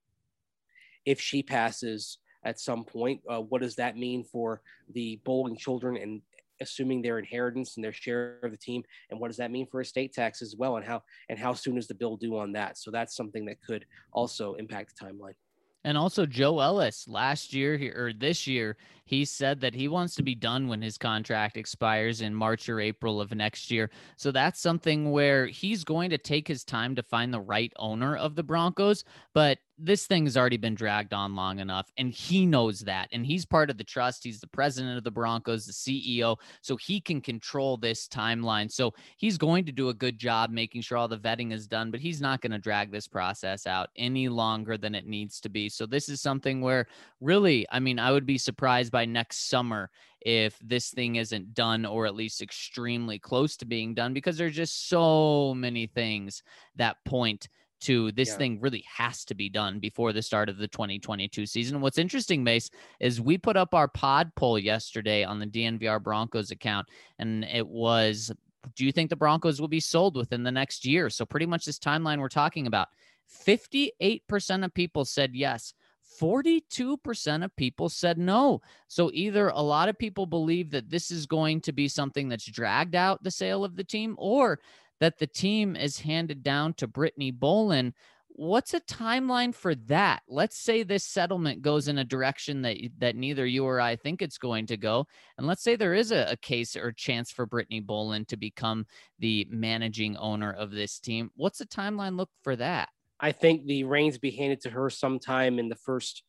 if she passes at some point, what does that mean for the Bolen children, and assuming their inheritance and their share of the team? And what does that mean for estate tax as well? And how soon is the bill due on that? So that's something that could also impact the timeline. And also Joe Ellis last year or this year, he said that he wants to be done when his contract expires in March or April of next year. So that's something where he's going to take his time to find the right owner of the Broncos. But this thing has already been dragged on long enough, and he knows that. And he's part of the trust. He's the president of the Broncos, the CEO, so he can control this timeline. So he's going to do a good job making sure all the vetting is done, but he's not going to drag this process out any longer than it needs to be. So this is something where really, I mean, I would be surprised by next summer if this thing isn't done, or at least extremely close to being done, because there's just so many things that point to this thing really has to be done before the start of the 2022 season. What's interesting, Mace, is we put up our pod poll yesterday on the DNVR Broncos account, and it was, do you think the Broncos will be sold within the next year? So pretty much this timeline we're talking about. 58% of people said yes. 42% of people said no. So either a lot of people believe that this is going to be something that's dragged out the sale of the team, or that the team is handed down to Brittany Bolen. What's a timeline for that? Let's say this settlement goes in a direction that neither you or I think it's going to go. And let's say there is a case or chance for Brittany Bolen to become the managing owner of this team. What's the timeline look for that? I think the reins be handed to her sometime in the first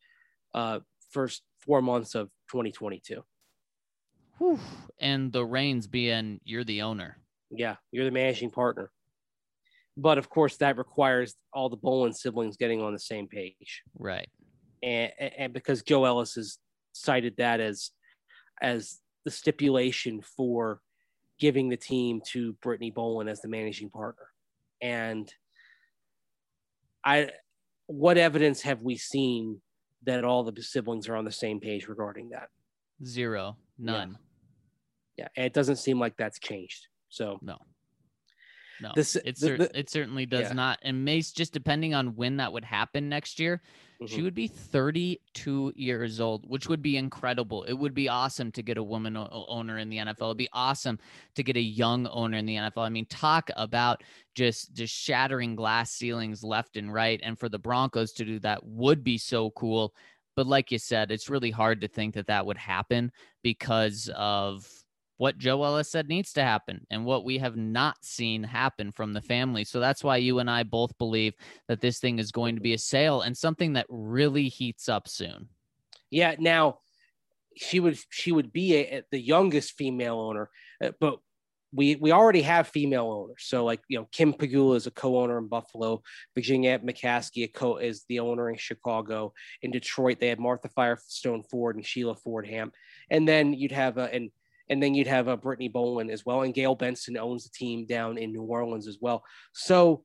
4 months of 2022. Whew. And the reins being, you're the owner. Yeah, you're the managing partner. But of course, that requires all the Bolen siblings getting on the same page. Right. And because Joe Ellis has cited that as the stipulation for giving the team to Brittany Bolen as the managing partner. And what evidence have we seen that all the siblings are on the same page regarding that? Zero. None. Yeah. And it doesn't seem like that's changed. So no, it certainly does not. And Mace, just depending on when that would happen next year, she would be 32 years old, which would be incredible. It would be awesome to get a woman owner in the NFL. It'd be awesome to get a young owner in the NFL. I mean, talk about just shattering glass ceilings left and right. And for the Broncos to do that would be so cool. But like you said, it's really hard to think that would happen because of what Joe Ellis said needs to happen and what we have not seen happen from the family. So that's why you and I both believe that this thing is going to be a sale and something that really heats up soon. Yeah. Now she would be the youngest female owner, but we already have female owners. So like, Kim Pegula is a co-owner in Buffalo. Virginia McCaskey is the owner in Chicago. In Detroit, they had Martha Firestone Ford and Sheila Fordham. And then you'd have Brittany Bolen as well. And Gail Benson owns the team down in New Orleans as well. So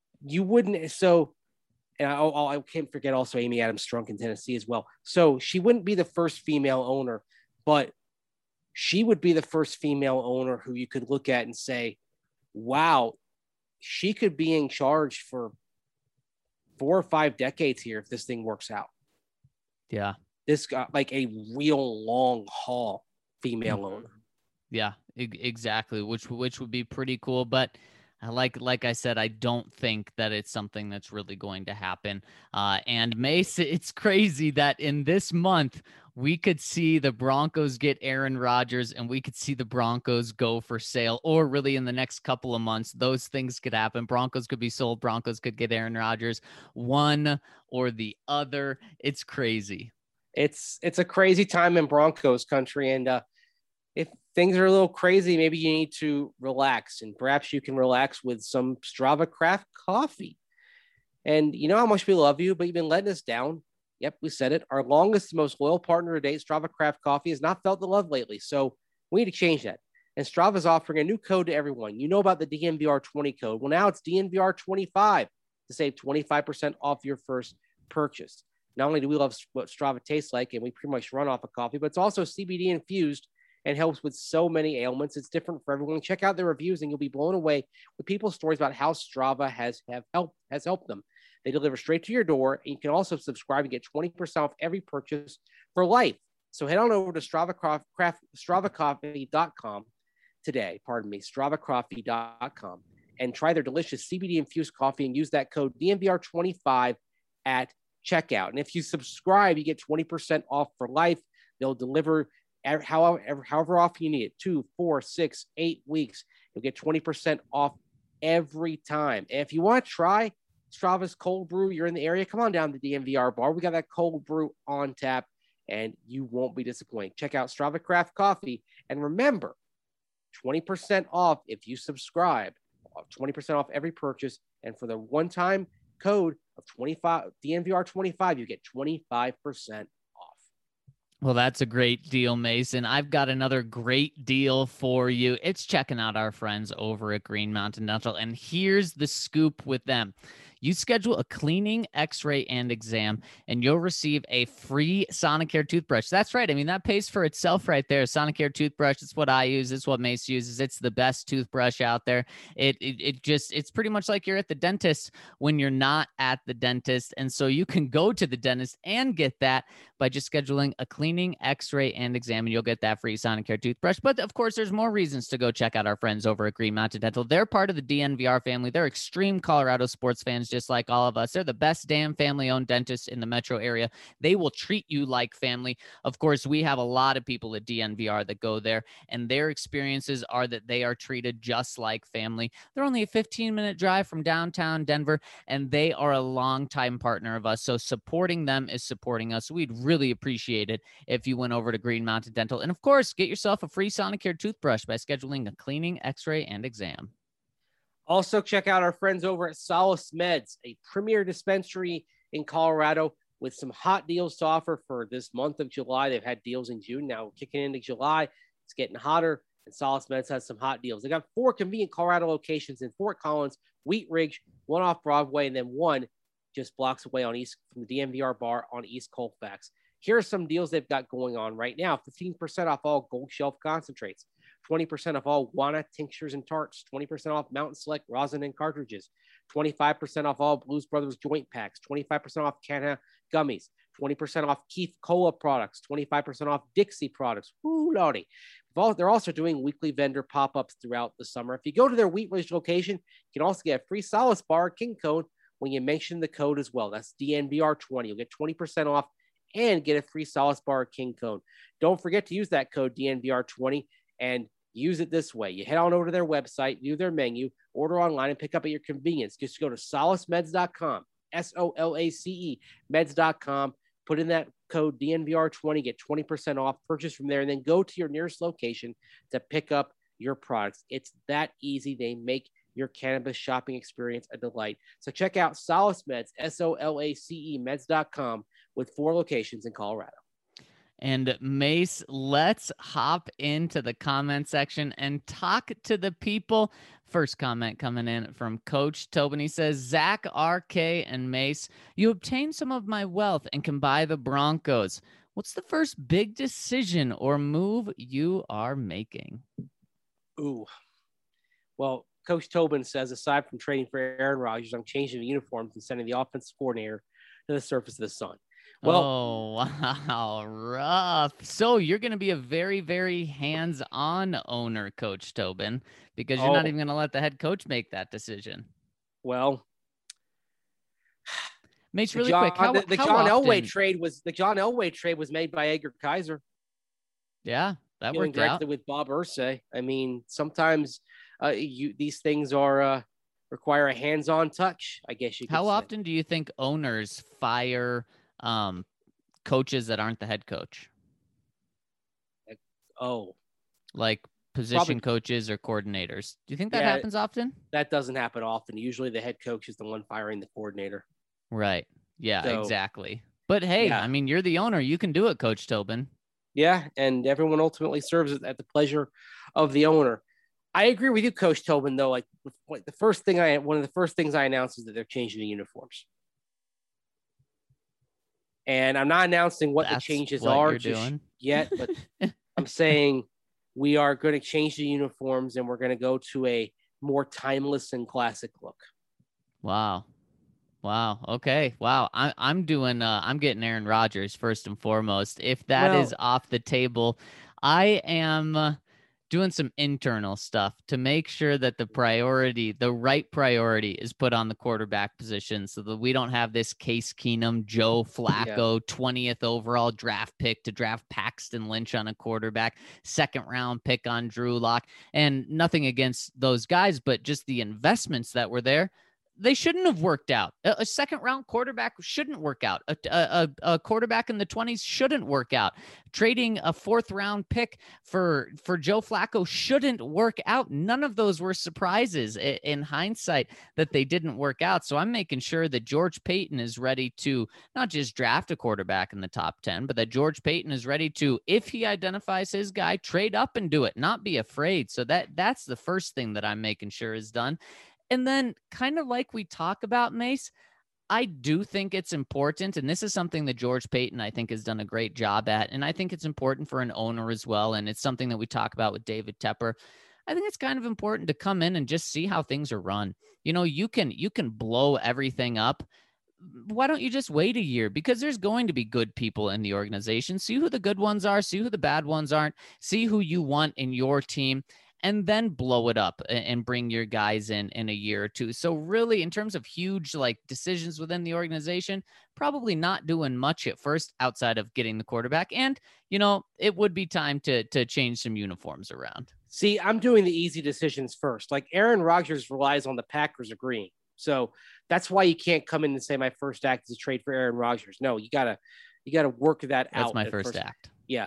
I can't forget also Amy Adams Strunk in Tennessee as well. So she wouldn't be the first female owner, but she would be the first female owner who you could look at and say, wow, she could be in charge for 4 or 5 decades here if this thing works out. Yeah. This got like a real long haul female owner. Yeah, exactly. Which would be pretty cool. But Like I said, I don't think that it's something that's really going to happen. And Mace, it's crazy that in this month we could see the Broncos get Aaron Rodgers and we could see the Broncos go for sale, or really in the next couple of months, those things could happen. Broncos could be sold. Broncos could get Aaron Rodgers, one or the other. It's crazy. It's a crazy time in Broncos country. And if things are a little crazy, maybe you need to relax, and perhaps you can relax with some Strava Craft coffee. And you know how much we love you, but you've been letting us down. Yep, we said it. Our longest, most loyal partner to date, Strava Craft Coffee, has not felt the love lately. So we need to change that. And Strava is offering a new code to everyone. You know about the DNVR20 code. Well, now it's DNVR25 to save 25% off your first purchase. Not only do we love what Strava tastes like, and we pretty much run off of coffee, but it's also CBD infused and helps with so many ailments. It's different for everyone. Check out their reviews and you'll be blown away with people's stories about how Strava has helped them. They deliver straight to your door, and you can also subscribe and get 20% off every purchase for life. So head on over to StravaCoffee.com today, StravaCoffee.com, and try their delicious CBD-infused coffee and use that code DNVR25 at checkout. And if you subscribe, you get 20% off for life. They'll deliver however often you need it, 2, 4, 6, 8 weeks. You'll get 20% off every time. And if you want to try Strava's cold brew, you're in the area, come on down to the DNVR bar. We got that cold brew on tap, and you won't be disappointed. Check out Strava Craft Coffee. And remember, 20% off if you subscribe, 20% off every purchase. And for the one-time code of 25 DNVR25, you get 25% off. Well, that's a great deal, Mason. I've got another great deal for you. It's checking out our friends over at Green Mountain Dental. And here's the scoop with them. You schedule a cleaning, x-ray, and exam, and you'll receive a free Sonicare toothbrush. That's right. I mean, that pays for itself right there. Sonicare toothbrush, it's what I use. It's what Mace uses. It's the best toothbrush out there. It's pretty much like you're at the dentist when you're not at the dentist. And so you can go to the dentist and get that by just scheduling a cleaning, x-ray, and exam, and you'll get that free Sonicare toothbrush. But of course, there's more reasons to go check out our friends over at Green Mountain Dental. They're part of the DNVR family. They're extreme Colorado sports fans, just like all of us. They're the best damn family-owned dentists in the metro area. They will treat you like family. Of course, we have a lot of people at DNVR that go there, and their experiences are that they are treated just like family. They're only a 15-minute drive from downtown Denver, and they are a longtime partner of us. So supporting them is supporting us. We'd really appreciate it if you went over to Green Mountain Dental. And of course, get yourself a free Sonicare toothbrush by scheduling a cleaning, x-ray, and exam. Also, check out our friends over at Solace Meds, a premier dispensary in Colorado with some hot deals to offer for this month of July. They've had deals in June. Now kicking into July, it's getting hotter, and Solace Meds has some hot deals. They got 4 convenient Colorado locations in Fort Collins, Wheat Ridge, one off Broadway, and then one just blocks away on East from the DNVR bar on East Colfax. Here are some deals they've got going on right now. 15% off all Gold Shelf concentrates, 20% off all Wana tinctures and tarts, 20% off Mountain Select rosin and cartridges, 25% off all Blues Brothers joint packs, 25% off Canna gummies, 20% off Keith Cola products, 25% off Dixie products. Woo, lordy. They're also doing weekly vendor pop-ups throughout the summer. If you go to their Wheat Ridge location, you can also get a free Solace bar King Cone when you mention the code as well. That's DNVR20. You'll get 20% off and get a free Solace bar King Cone. Don't forget to use that code DNVR20 and use it this way. You head on over to their website, view their menu, order online, and pick up at your convenience. Just go to solacemeds.com, SOLACE meds.com, put in that code DNVR20, get 20% off, purchase from there, and then go to your nearest location to pick up your products. It's that easy. They make your cannabis shopping experience a delight. So check out Solace Meds, SOLACE meds.com, with 4 locations in Colorado. And Mace, let's hop into the comment section and talk to the people. First comment coming in from Coach Tobin. He says, Zach, RK, and Mace, you obtained some of my wealth and can buy the Broncos. What's the first big decision or move you are making? Ooh. Well, Coach Tobin says, aside from trading for Aaron Rodgers, I'm changing the uniforms and sending the offensive coordinator to the surface of the sun. Well, oh, wow, rough. So you're going to be a very, very hands-on owner, Coach Tobin, because you're not oh, even going to let the head coach make that decision. well, Mace, really quick, how John often? Elway trade was made by Edgar Kaiser, Yeah, that dealing worked out. directly with Bob Irsay. I mean, sometimes these things are require a hands-on touch, I guess you could How say. often do you think owners fire coaches that aren't the head coach, Oh, like position coaches or coordinators? Do you think that happens often? That doesn't happen often. Usually the head coach is the one firing the coordinator. Right. Yeah, So, exactly. But hey, yeah. I mean, you're the owner. You can do it, Coach Tobin. Yeah, and everyone ultimately serves at the pleasure of the owner. I agree with you, Coach Tobin, though. Like one of the first things I announced is that they're changing the uniforms. And I'm not announcing what the changes are just yet, but I'm saying we are going to change the uniforms and we're going to go to a more timeless and classic look. Wow. Okay. Wow. I'm getting Aaron Rodgers first and foremost. If that is off the table, I am doing some internal stuff to make sure that the right priority is put on the quarterback position so that we don't have this Case Keenum, Joe Flacco, 20th overall draft pick to draft Paxton Lynch on a quarterback, second round pick on Drew Lock, and nothing against those guys, but just the investments that were there. They shouldn't have worked out. A second round quarterback shouldn't work out. A quarterback in the 20s shouldn't work out. Trading a fourth round pick for Joe Flacco shouldn't work out. None of those were surprises in hindsight that they didn't work out. So I'm making sure that George Paton is ready to not just draft a quarterback in the top 10, but that George Paton is ready to, if he identifies his guy, trade up and do it, not be afraid. So that's the first thing that I'm making sure is done. And then kind of like we talk about, Mace, I do think it's important, and this is something that George Paton, I think, has done a great job at, and I think it's important for an owner as well, and it's something that we talk about with David Tepper. I think it's kind of important to come in and just see how things are run. You know, you can blow everything up. Why don't you just wait a year? Because there's going to be good people in the organization. See who the good ones are, see who the bad ones aren't, see who you want in your team, and then blow it up and bring your guys in a year or two. So really, in terms of huge like decisions within the organization, probably not doing much at first outside of getting the quarterback. And, you know, it would be time to change some uniforms around. See, I'm doing the easy decisions first. Like Aaron Rodgers relies on the Packers agreeing. So that's why you can't come in and say my first act is a trade for Aaron Rodgers. No, you gotta work that out. That's my first act. Yeah.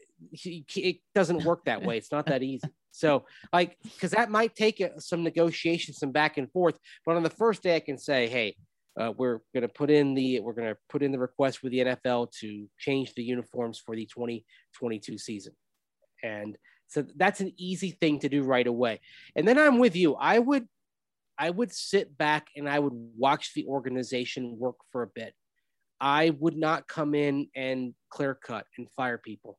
It doesn't work that way. It's not that easy. So like, because that might take some negotiation, some back and forth. But on the first day, I can say, hey, we're going to put in the request with the NFL to change the uniforms for the 2022 season. And so that's an easy thing to do right away. And then I'm with you. I would sit back and I would watch the organization work for a bit. I would not come in and clear cut and fire people.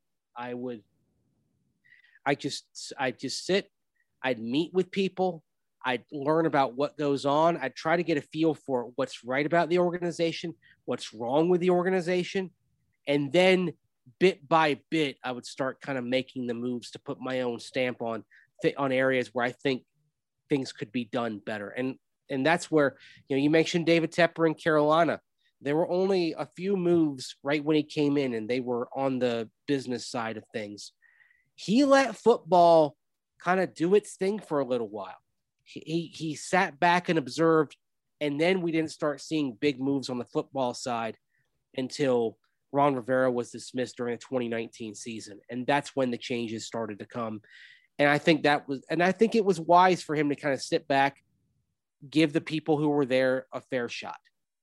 I'd just sit, I'd meet with people, I'd learn about what goes on. I'd try to get a feel for what's right about the organization, what's wrong with the organization. And then bit by bit, I would start kind of making the moves to put my own stamp on areas where I think things could be done better. And that's where, you know, you mentioned David Tepper in Carolina. There were only a few moves right when he came in, and they were on the business side of things. He let football kind of do its thing for a little while. He sat back and observed, and then we didn't start seeing big moves on the football side until Ron Rivera was dismissed during the 2019 season. And that's when the changes started to come. And I think it was wise for him to kind of sit back, give the people who were there a fair shot.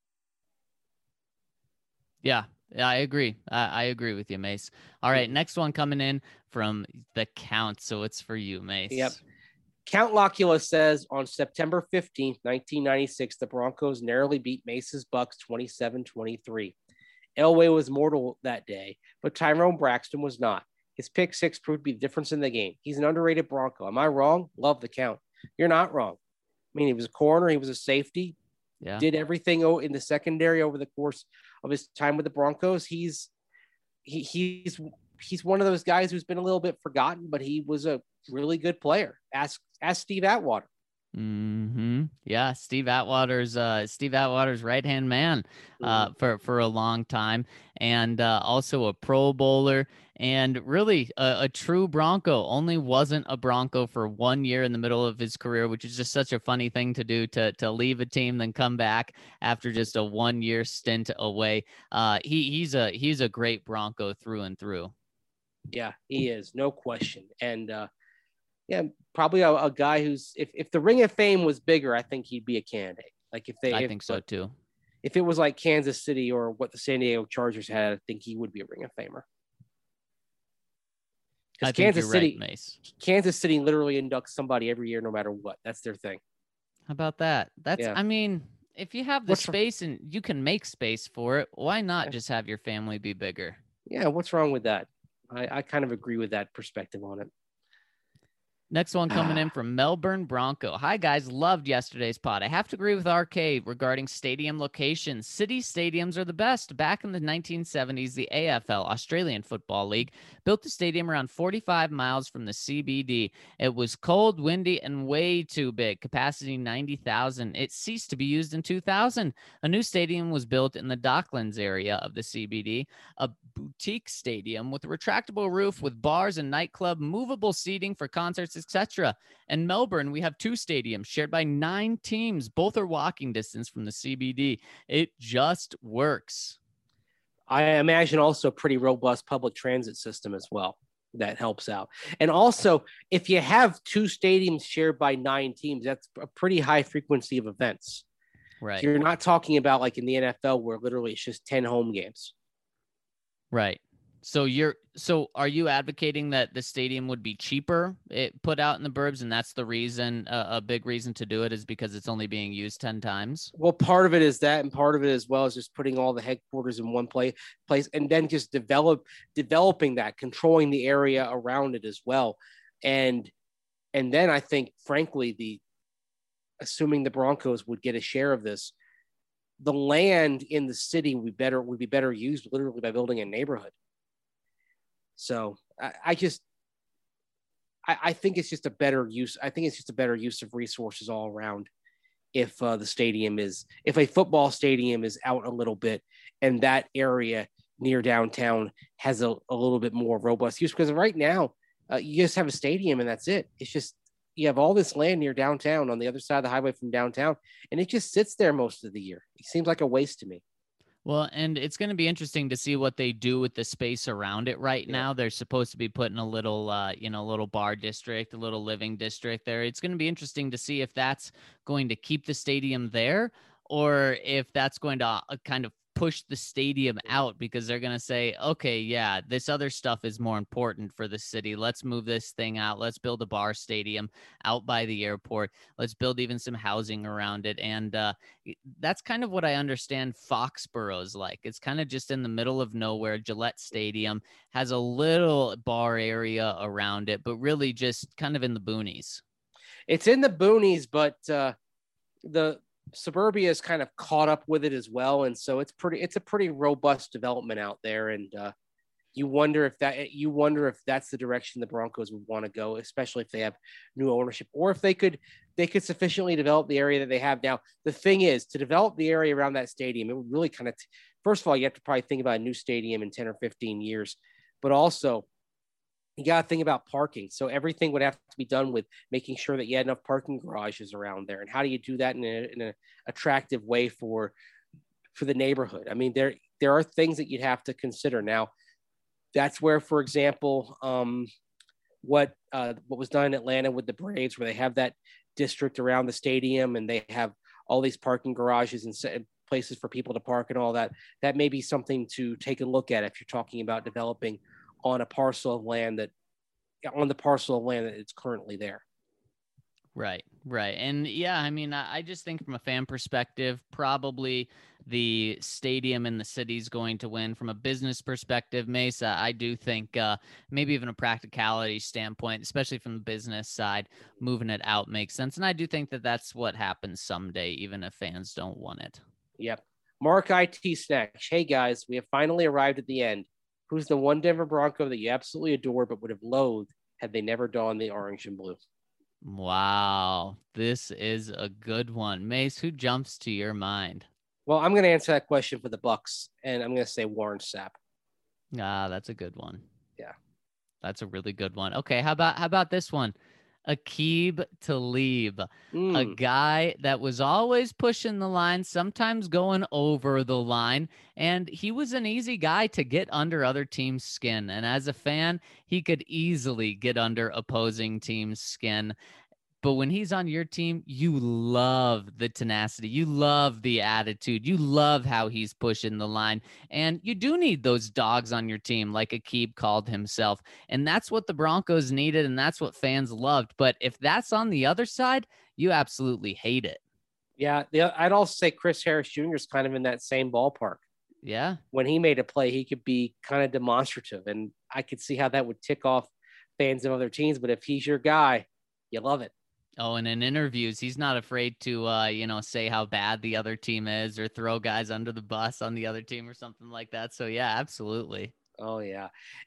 Yeah, I agree. I agree with you, Mace. All right, next one coming in from the Count. So it's for you, Mace. Yep. Count Locula says on September 15th, 1996, the Broncos narrowly beat Mace's Bucks 27-23. Elway was mortal that day, but Tyrone Braxton was not. His pick six proved to be the difference in the game. He's an underrated Bronco. Am I wrong? Love the Count. You're not wrong. I mean, he was a corner. He was a safety. Yeah. Did everything in the secondary over the course of his time with the Broncos. He's one of those guys who's been a little bit forgotten, but he was a really good player. Ask Steve Atwater. Yeah, Steve Atwater's right-hand man for a long time, and also a Pro Bowler, and really a true Bronco. Only wasn't a Bronco for 1 year in the middle of his career, which is just such a funny thing to do, to leave a team then come back after just a 1 year stint away. He's a great Bronco through and through. Yeah, he is, no question. And yeah, probably a guy who's, if the Ring of Fame was bigger, I think he'd be a candidate. Like I think so too. If it was like Kansas City or what the San Diego Chargers had, I think he would be a Ring of Famer. Because Kansas City literally inducts somebody every year, no matter what. That's their thing. How about that? I mean, if you have the space and you can make space for it, why not just have your family be bigger? Yeah, what's wrong with that? I kind of agree with that perspective on it. Next one coming in from Melbourne Bronco. Hi, guys. Loved yesterday's pod. I have to agree with RK regarding stadium locations. City stadiums are the best. Back in the 1970s, the AFL, Australian Football League, built the stadium around 45 miles from the CBD. It was cold, windy, and way too big. Capacity 90,000. It ceased to be used in 2000. A new stadium was built in the Docklands area of the CBD, a boutique stadium with a retractable roof with bars and nightclub, movable seating for concerts, etc. In Melbourne, we have two stadiums shared by 9 teams. Both are walking distance from the CBD. It just works. I imagine also a pretty robust public transit system as well. That helps out. And also, if you have 2 stadiums shared by 9 teams, that's a pretty high frequency of events. Right. So you're not talking about like in the NFL where literally it's just 10 home games. Right. So are you advocating that the stadium would be cheaper put out in the burbs, and that's the reason, a big reason to do it is because it's only being used 10 times? Well, part of it is that, and part of it as well is just putting all the headquarters in one place, and then just developing that, controlling the area around it as well. And then I think, frankly, assuming the Broncos would get a share of this, the land in the city would be better used literally by building a neighborhood. So I think it's just a better use. I think it's just a better use of resources all around. If a football stadium is out a little bit and that area near downtown has a little bit more robust use, because right now you just have a stadium and that's it. It's just, you have all this land near downtown on the other side of the highway from downtown, and it just sits there most of the year. It seems like a waste to me. Well, and it's going to be interesting to see what they do with the space around it right now. They're supposed to be putting a little, little bar district, a little living district there. It's going to be interesting to see if that's going to keep the stadium there or if that's going to kind of push the stadium out, because they're going to say, okay, yeah, this other stuff is more important for the city. Let's move this thing out. Let's build a bar stadium out by the airport. Let's build even some housing around it. And that's kind of what I understand Foxborough's like. It's kind of just in the middle of nowhere. Gillette Stadium has a little bar area around it, but really just kind of in the boonies. It's in the boonies, but the suburbia is kind of caught up with it as well, and so it's a pretty robust development out there, and you wonder if that's the direction the Broncos would want to go, especially if they have new ownership, or if they could sufficiently develop the area that they have now. The thing is, to develop the area around that stadium, it would really kind of first of all, you have to probably think about a new stadium in 10 or 15 years, but also you got to think about parking. So everything would have to be done with making sure that you had enough parking garages around there. And how do you do that in an attractive way for the neighborhood? I mean, there are things that you'd have to consider. Now, that's where, for example, what was done in Atlanta with the Braves, where they have that district around the stadium and they have all these parking garages and places for people to park and all that. That may be something to take a look at if you're talking about developing on the parcel of land that it's currently there. Right. And yeah, I mean, I just think from a fan perspective, probably the stadium in the city is going to win. From a business perspective, Mesa, I do think maybe even a practicality standpoint, especially from the business side, moving it out makes sense. And I do think that that's what happens someday, even if fans don't want it. Yep. Mark IT Snacks. Hey guys, we have finally arrived at the end. Who's the one Denver Bronco that you absolutely adore but would have loathed had they never donned the orange and blue? Wow, this is a good one. Mace, who jumps to your mind? Well, I'm going to answer that question for the Bucks, and I'm going to say Warren Sapp. Ah, that's a good one. Yeah. That's a really good one. Okay, how about this one? Aqib Talib, a guy that was always pushing the line, sometimes going over the line, and he was an easy guy to get under other teams' skin. And as a fan, he could easily get under opposing teams' skin. But when he's on your team, you love the tenacity. You love the attitude. You love how he's pushing the line. And you do need those dogs on your team, like Aqib called himself. And that's what the Broncos needed, and that's what fans loved. But if that's on the other side, you absolutely hate it. Yeah, I'd also say Chris Harris Jr. is kind of in that same ballpark. Yeah. When he made a play, he could be kind of demonstrative, and I could see how that would tick off fans of other teams. But if he's your guy, you love it. Oh, and in interviews, he's not afraid to, say how bad the other team is or throw guys under the bus on the other team or something like that. So, yeah, absolutely. Oh, yeah.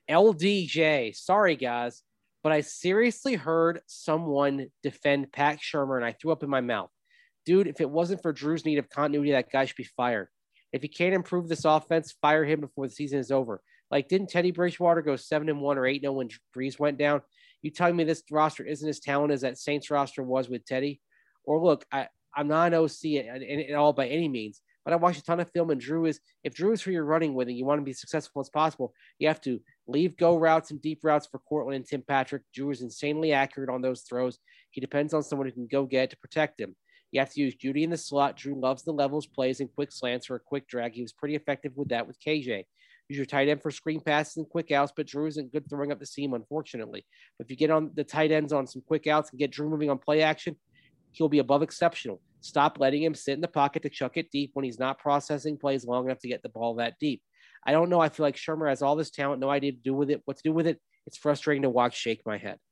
LDJ. Sorry, guys, but I seriously heard someone defend Pat Shurmur, and I threw up in my mouth. Dude, if it wasn't for Drew's need of continuity, that guy should be fired. If he can't improve this offense, fire him before the season is over. Like, didn't Teddy Bridgewater go 7-1 or 8-0 when Brees went down? You telling me this roster isn't as talented as that Saints roster was with Teddy? Or look, I'm not an OC at all by any means, but I watched a ton of film, and if Drew is who you're running with and you want to be successful as possible, you have to leave go routes and deep routes for Cortland and Tim Patrick. Drew is insanely accurate on those throws. He depends on someone who can go get to protect him. You have to use Judy in the slot. Drew loves the levels plays and quick slants or a quick drag. He was pretty effective with that with KJ. Use your tight end for screen passes and quick outs, but Drew isn't good throwing up the seam, unfortunately. But if you get on the tight ends on some quick outs and get Drew moving on play action, he'll be above exceptional. Stop letting him sit in the pocket to chuck it deep when he's not processing plays long enough to get the ball that deep. I don't know. I feel like Shurmur has all this talent, no idea what to do with it. It's frustrating to watch. Shake my head.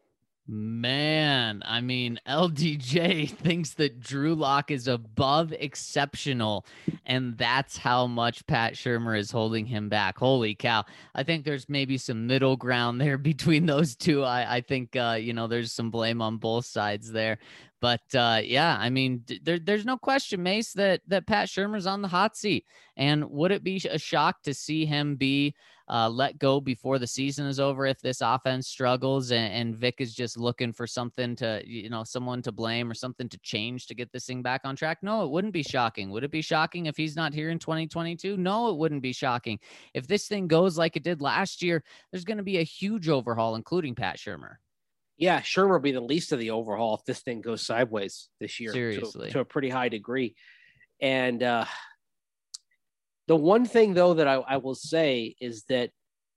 Man, I mean, LDJ thinks that Drew Lock is above exceptional, and that's how much Pat Shurmur is holding him back. Holy cow. I think there's maybe some middle ground there between those two. I think, there's some blame on both sides there. But yeah, I mean, there's no question, Mace, that Pat Shurmur's on the hot seat. And would it be a shock to see him be let go before the season is over if this offense struggles and Vic is just looking for something to, someone to blame or something to change to get this thing back on track? No, it wouldn't be shocking. Would it be shocking if he's not here in 2022? No, it wouldn't be shocking. If this thing goes like it did last year, there's going to be a huge overhaul, including Pat Shurmur. Yeah, Shurmur will be the least of the overhaul if this thing goes sideways this year. Seriously. To a pretty high degree. And the one thing, though, that I will say is that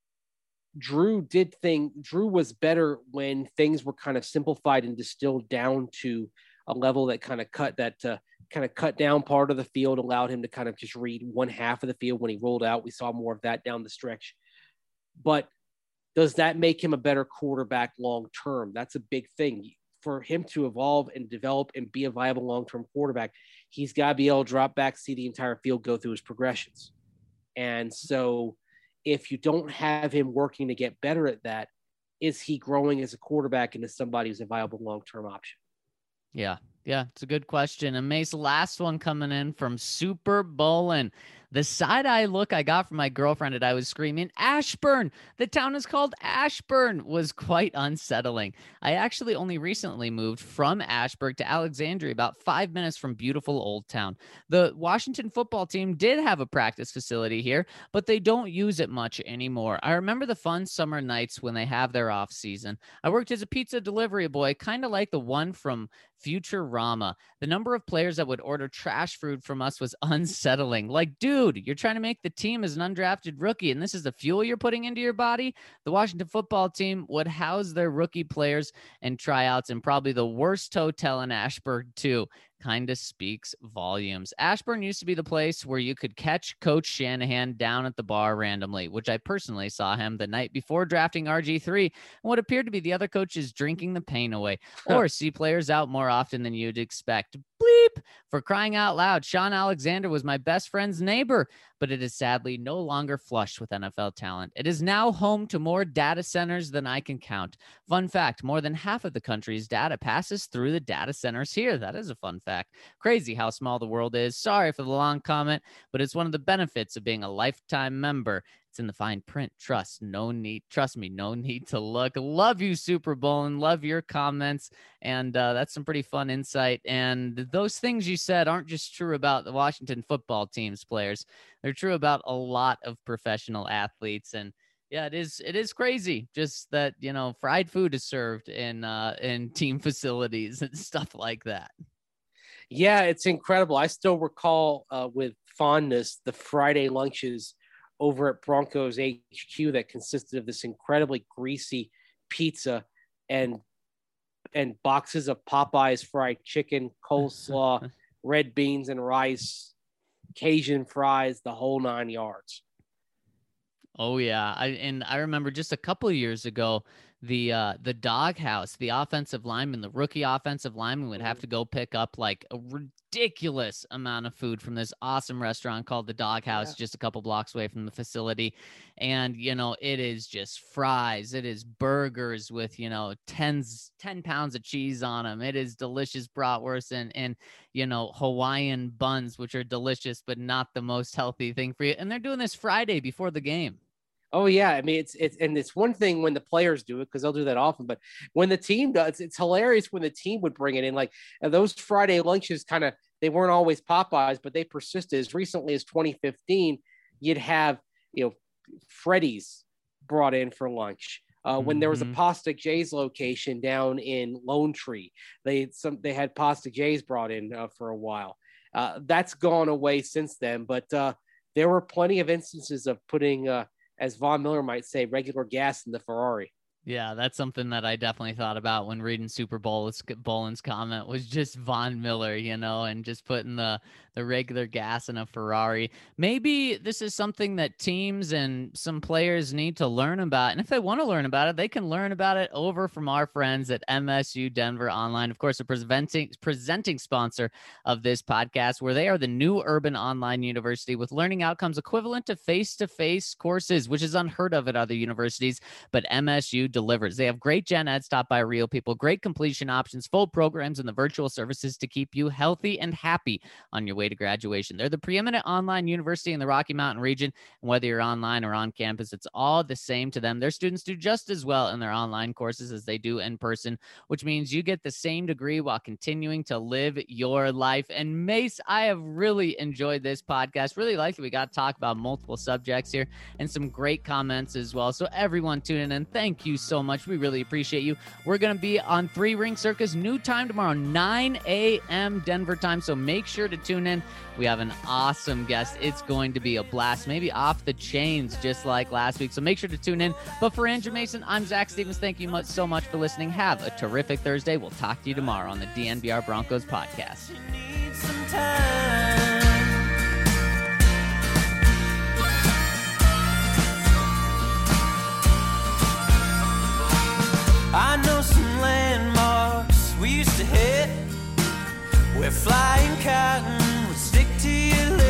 Drew was better when things were kind of simplified and distilled down to a level that kind of cut down part of the field, allowed him to kind of just read one half of the field when he rolled out. We saw more of that down the stretch. But does that make him a better quarterback long-term? That's a big thing. For him to evolve and develop and be a viable long-term quarterback, he's got to be able to drop back, see the entire field go through his progressions. And so if you don't have him working to get better at that, is he growing as a quarterback into somebody who's a viable long-term option? Yeah, it's a good question. And Mace, last one coming in from Super Bowlin. The side-eye look I got from my girlfriend and I was screaming, Ashburn! The town is called Ashburn! Was quite unsettling. I actually only recently moved from Ashburn to Alexandria, about 5 minutes from beautiful Old Town. The Washington football team did have a practice facility here, but they don't use it much anymore. I remember the fun summer nights when they have their off season. I worked as a pizza delivery boy, kind of like the one from Futurama. The number of players that would order trash food from us was unsettling. Like, dude, you're trying to make the team as an undrafted rookie, and this is the fuel you're putting into your body? The Washington football team would house their rookie players and tryouts in probably the worst hotel in Ashburn, too. Kind of speaks volumes. Ashburn used to be the place where you could catch Coach Shanahan down at the bar randomly, which I personally saw him the night before drafting RG3 and what appeared to be the other coaches drinking the pain away, or see players out more often than you'd expect. bleep. For crying out loud, Sean Alexander was my best friend's neighbor, but it is sadly no longer flush with NFL talent. It is now home to more data centers than I can count. Fun fact, more than half of the country's data passes through the data centers here. That is a fun fact. Crazy how small the world is. Sorry for the long comment, but it's one of the benefits of being a lifetime member. It's in the fine print. Trust me, no need to look. Love you, Super Bowl, and love your comments. And that's some pretty fun insight. And those things you said aren't just true about the Washington football team's players. They're true about a lot of professional athletes. And yeah, it is crazy just that, fried food is served in team facilities and stuff like that. Yeah, it's incredible. I still recall with fondness the Friday lunches over at Broncos HQ that consisted of this incredibly greasy pizza and boxes of Popeyes fried chicken, coleslaw, red beans and rice, Cajun fries, the whole 9 yards. Oh yeah, I remember just a couple of years ago, the doghouse, the offensive lineman, the rookie offensive lineman would have to go pick up like a ridiculous amount of food from this awesome restaurant called the Doghouse, just a couple blocks away from the facility. And, it is just fries. It is burgers with, 10 pounds of cheese on them. It is delicious bratwurst and Hawaiian buns, which are delicious, but not the most healthy thing for you. And they're doing this Friday before the game. Oh yeah, I mean it's one thing when the players do it because they'll do that often, but when the team does, it's hilarious when the team would bring it in. Like those Friday lunches, they weren't always Popeyes, but they persisted. As recently as 2015, you'd have Freddy's brought in for lunch. When there was a Pasta J's location down in Lone Tree, they had Pasta J's brought in for a while. That's gone away since then, but there were plenty of instances of putting. As Von Miller might say, regular gas in the Ferrari. Yeah, that's something that I definitely thought about when reading Super Bolin's comment was just Von Miller, and just putting the regular gas in a Ferrari. Maybe this is something that teams and some players need to learn about. And if they want to learn about it, they can learn about it over from our friends at MSU Denver Online. Of course, a presenting sponsor of this podcast, where they are the new urban online university with learning outcomes equivalent to face-to-face courses, which is unheard of at other universities. But MSU delivers. They have great gen eds taught by real people, great completion options, full programs, and the virtual services to keep you healthy and happy on your way to graduation. They're the preeminent online university in the Rocky Mountain region, and whether you're online or on campus, it's all the same to them. Their students do just as well in their online courses as they do in person, which means you get the same degree while continuing to live your life. And Mace, I have really enjoyed this podcast. Really like that we got to talk about multiple subjects here and some great comments as well. So everyone tuning in, thank you so much. We really appreciate you. We're going to be on 3 Ring Circus, new time tomorrow, 9 a.m. Denver time. So make sure to tune in. We have an awesome guest. It's going to be a blast, maybe off the chains, just like last week. So make sure to tune in. But for Andrew Mason, I'm Zach Stevens. Thank you so much for listening. Have a terrific Thursday. We'll talk to you tomorrow on the DNVR Broncos podcast. I know some landmarks we used to hit where flying cotton would stick to your